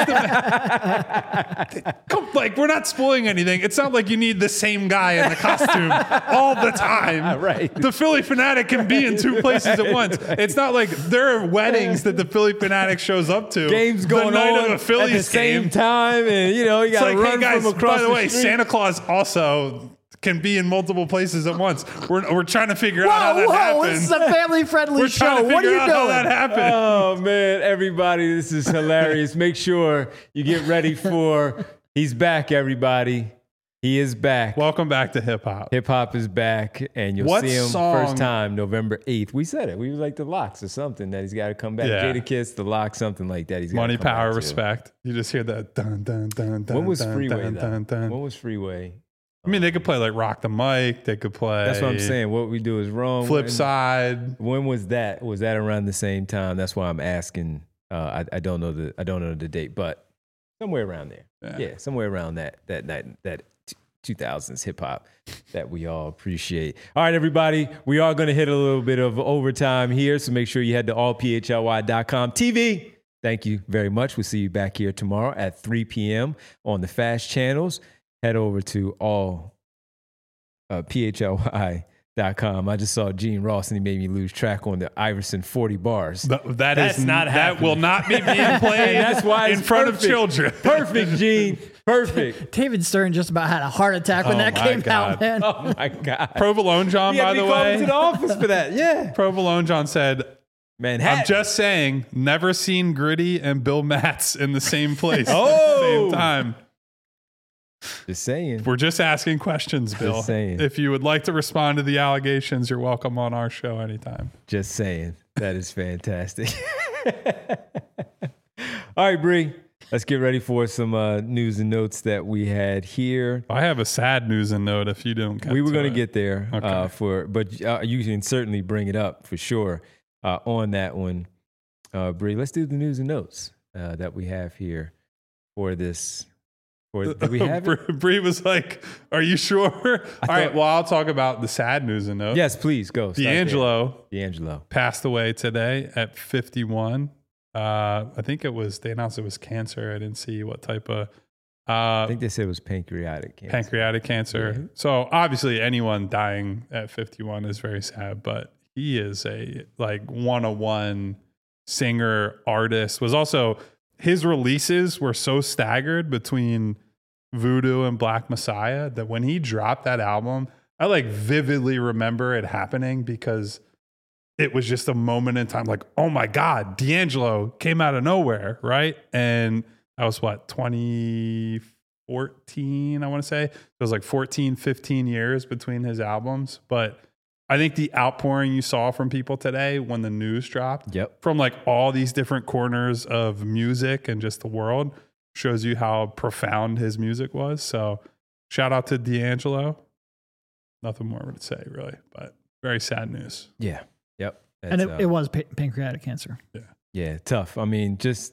the Come, like we're not spoiling anything. It's not like you need the same guy in the costume all the time.
Right.
The Philly Fanatic can be in two places at once. It's not like there are weddings that the Philly Fanatic shows up to.
Games
the
going
night
on
of a
at the
Phillies
same
game.
time, and you know you
It's
got to
like,
run
hey guys,
from across
by the way,
street.
Santa Claus also can be in multiple places at once. We're, we're trying to figure out how
Whoa,
that
whoa!
happens.
This is a family-friendly
We're trying
show.
to
What are
figure
you
out how that
doing?
happened.
Oh man, everybody, this is hilarious. Make sure you get ready for he's back, everybody. He is back.
Welcome back to hip hop.
Hip hop is back, and you'll
What
see him
song-
first time November eighth. We said it. We was like the Locks or something that he's got to come back.
Yeah.
Jada Kiss, the Locks, something like that. He's gotta
Money,
come back
power,
to.
respect. You just hear that dun dun dun dun.
When was
dun,
Freeway
dun,
though?
dun, dun.
When was Freeway?
I mean, they could play like Rock the Mic. They could play.
That's what I'm saying. What we do is wrong.
Flip
When-
side.
When was that? Was that around the same time? That's why I'm asking. Uh, I, I don't know the I don't know the date, but somewhere around there.
Yeah.
Yeah, somewhere around that that that that two thousands hip hop that we all appreciate. All right, everybody, we are going to hit a little bit of overtime here, so make sure you head to all p h l y dot com T V. Thank you very much. We'll see you back here tomorrow at three p.m. on the fast channels. Head over to all uh, p h l y Dot com. I just saw Gene Ross and he made me lose track on the Iverson forty bars.
Th- that
That's
is
not
that
happening.
will not be being played.
And that's why
in
it's
front
perfect.
of children.
Perfect, Gene. Perfect.
David Stern just about had a heart attack when
Oh
that
my
came
God.
out, man.
Oh my God.
Provolone John,
He had
by
to
the
be called
way.
into the office for that. Yeah.
Provolone John said,
Manhattan.
I'm just saying, never seen Gritty and Bill Matz in the same place
Oh.
at the same time.
Just saying.
We're just asking questions, Bill.
saying.
If you would like to respond to the allegations, you're welcome on our show anytime.
Just saying. That is fantastic. All right, Bree. Let's get ready for some uh, news and notes that we had here.
I have a sad news and note if you don't get
We were
to
going to
it.
get there
Okay.
uh, for, but uh, you can certainly bring it up for sure uh, on that one, uh, Bree. Let's do the news and notes uh, that we have here for this. For do we have it?
Bree was like, "Are you sure?" All right. Well, I'll talk about the sad news and note.
Yes, please go. Start
D'Angelo
there. D'Angelo
passed away today at fifty-one. Uh, I think it was, they announced it was cancer. I didn't see what type of
I
uh,
think they said it was pancreatic cancer.
pancreatic cancer.
Yeah.
So obviously anyone dying at fifty-one is very sad, but he is a like one oh one singer, artist. Was also, his releases were so staggered between Voodoo and Black Messiah that when he dropped that album, I like vividly remember it happening because it was just a moment in time, like, oh my God, D'Angelo came out of nowhere, right? And that was what, twenty fourteen, I want to say? It was like fourteen, fifteen years between his albums. But I think the outpouring you saw from people today when the news dropped,
Yep.
from like all these different corners of music and just the world, shows you how profound his music was. So shout out to D'Angelo. Nothing more to say, really, but very sad news.
Yeah. Yep.
and
That's,
it,
uh,
it was pa- pancreatic cancer.
Yeah, tough. I mean, just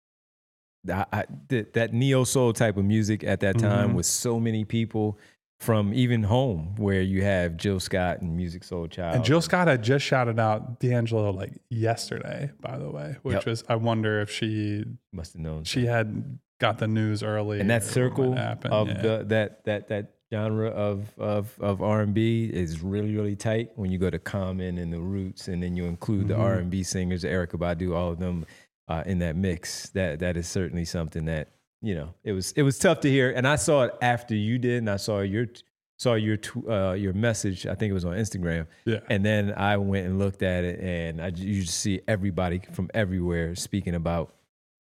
I, I, th- that neo soul type of music at that time
Mhm.
with so many people from even home, where you have Jill Scott and Music Soul Child.
And Jill Scott had just shouted out D'Angelo like yesterday, by the way, which
Yep.
was, I wonder if she
must have known.
she had got the news early.
and that
or what
circle
happened.
of
Yeah.
the that that that genre of of of R and B is really really tight. When you go to Common and the Roots, and then you include the
Mhm.
R and B singers, Erykah Badu, all of them uh, in that mix. That that is certainly something that, you know, it was it was tough to hear. And I saw it after you did, and I saw your saw your tw- uh, your message. I think it was on Instagram.
Yeah.
And then I went and looked at it, and I you just see everybody from everywhere speaking about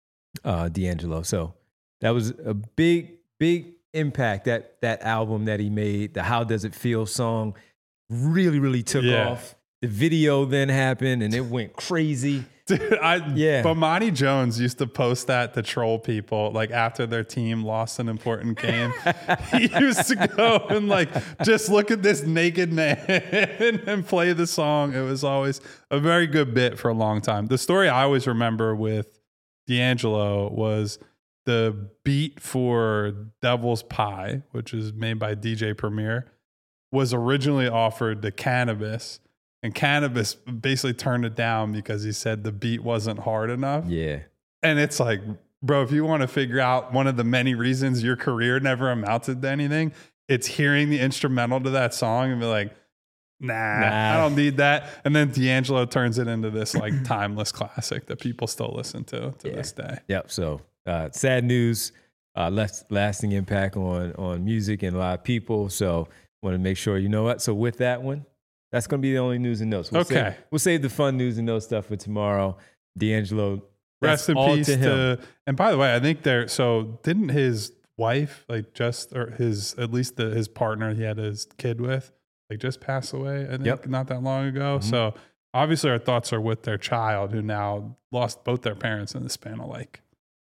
uh, D'Angelo. So that was a big, big impact. That that album that he made, the "How Does It Feel" song, really, really took
Yeah.
off. The video then happened, and it went crazy.
Dude, I,
Yeah.
Bomani Jones used to post that to troll people, like after their team lost an important game. He used to go and like just look at this naked man and play the song. It was always a very good bit for a long time. The story I always remember with D'Angelo was the beat for Devil's Pie, which is made by D J Premier, was originally offered to Cannabis. And Cannabis basically turned it down because he said the beat wasn't hard enough.
Yeah.
And it's like, bro, if you want to figure out one of the many reasons your career never amounted to anything, it's hearing the instrumental to that song and be like, nah,
Nah.
I don't need that. And then D'Angelo turns it into this like timeless classic that people still listen to to
Yeah.
this day.
Yep. So uh, sad news, uh, left lasting impact on on music and a lot of people. So want to make sure you know what. So with that one, that's going to be the only news and notes. We'll
Okay.
Save, we'll save the fun news and notes stuff for tomorrow. D'Angelo,
Rest
that's
in
all
peace
to him.
to, and by the way, I think there, so didn't his wife, like just, or his, at least the, his partner he had his kid with, like just pass away, I think,
Yep.
not that long ago.
Mhm.
So obviously our thoughts are with their child who now lost both their parents in the span of like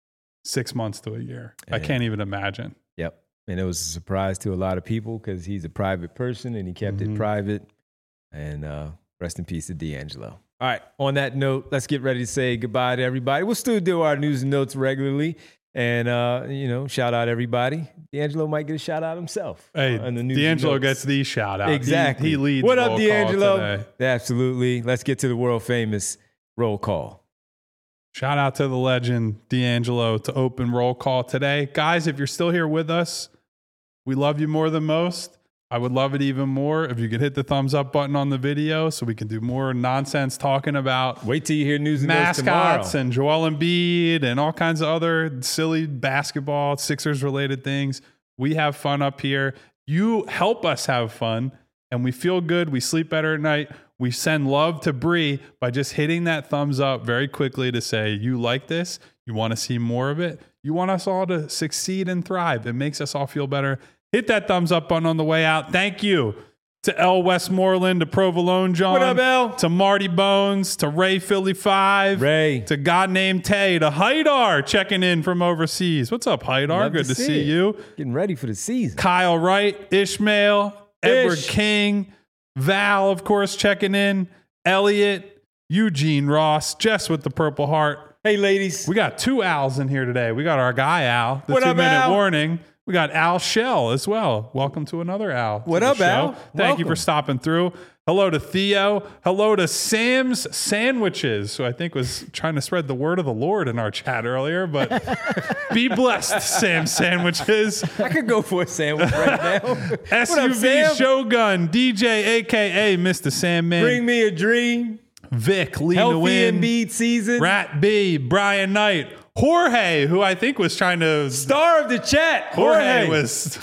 six months to a year. I
And-
can't even imagine.
Yep. And it was a surprise to a lot of people because he's a private person and he kept
Mhm.
it private. And uh, rest in peace to D'Angelo. All right. On that note, let's get ready to say goodbye to everybody. We'll still do our news and notes regularly. And, uh, you know, shout out everybody. D'Angelo might get a shout out himself.
Hey,
on the news and
D'Angelo
notes.
gets the shout out. He-
Exactly.
He, leads.
What up,
roll call
D'Angelo?
today.
Absolutely. Let's get to the world famous roll call.
Shout out to the legend D'Angelo to open roll call today. Guys, if you're still here with us, we love you more than most. I would love it even more if you could hit the thumbs up button on the video so we can do more nonsense talking about
Wait till you hear news and notes
mascots
tomorrow.
and Joel Embiid and all kinds of other silly basketball, Sixers related things. We have fun up here. You help us have fun, and we feel good. We sleep better at night. We send love to Bree by just hitting that thumbs up very quickly to say, you like this? You want to see more of it? You want us all to succeed and thrive. It makes us all feel better. Hit that thumbs up button on the way out. Thank you to L. Westmoreland, to Provolone John,
What up, L?
to Marty Bones, to Ray Philly five,
Ray.
to God named Tay, to Haidar checking in from overseas. What's up, Haidar?
Love
Good to, see,
it.
you.
Getting ready for the season.
Kyle Wright, Ishmael, Edward
Ish.
King, Val, of course, checking in, Elliot, Eugene Ross, Jess with the Purple Heart.
Hey, ladies.
We got two Al's in here today. We got our guy Al, the
What up,
two-minute
Al?
warning. We got Al Shell as well. Welcome to another Al. to
What
the
up,
show.
Al?
Thank
Welcome.
you for stopping through. Hello to Theo. Hello to Sam's Sandwiches, who I think was trying to spread the word of the Lord in our chat earlier. But be blessed, Sam's Sandwiches.
I could go for a sandwich right now.
S
What up,
U V
Sam?
Shogun, D J, a k a. Mister Sandman.
Bring me a dream.
Vic, lead to
Healthy
win.
Embiid season.
Rat B, Brian Knight. Jorge, who I think was trying to...
Star of the chat.
Jorge,
Jorge.
was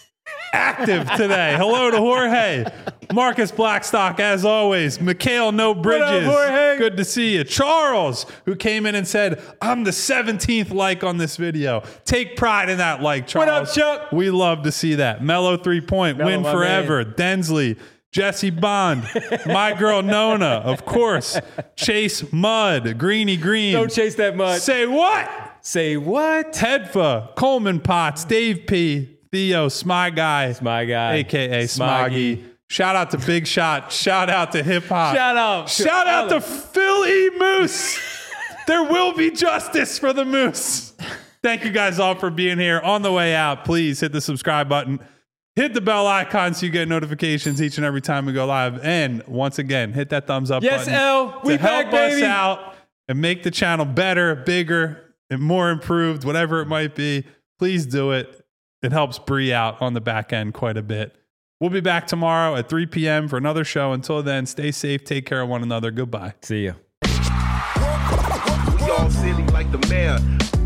active today. Hello to Jorge. Marcus Blackstock, as always. Mikhail No Bridges.
Jorge?
Good to see you. Charles, who came in and said, I'm the seventeenth like on this video. Take pride in that like, Charles.
What up, Chuck?
We love to see that. Mellow three point.
Mellow,
Win
my
forever. Densley. Jesse Bond, my girl Nona, of course. Chase Mudd, Greeny Green.
Don't chase that mud.
Say what?
Say what?
Tedfa, Coleman Potts, Dave P, Theo, Smy Guy,
It's my guy.
A K A Smoggy.
Smoggy.
Shout out to Big Shot. Shout out to Hip Hop.
Shout out.
Shout out to Philly Moose. There will be justice for the Moose. Thank you guys all for being here. On the way out, please hit the subscribe button. Hit the bell icon so you get notifications each and every time we go live. And once again, hit that thumbs up
Yes,
button
L. We
to help
back, baby.
us out and make the channel better, bigger, and more improved, whatever it might be. Please do it. It helps Bree out on the back end quite a bit. We'll be back tomorrow at three p.m. for another show. Until then, stay safe, take care of one another. Goodbye.
See ya.
We all silly like the mayor.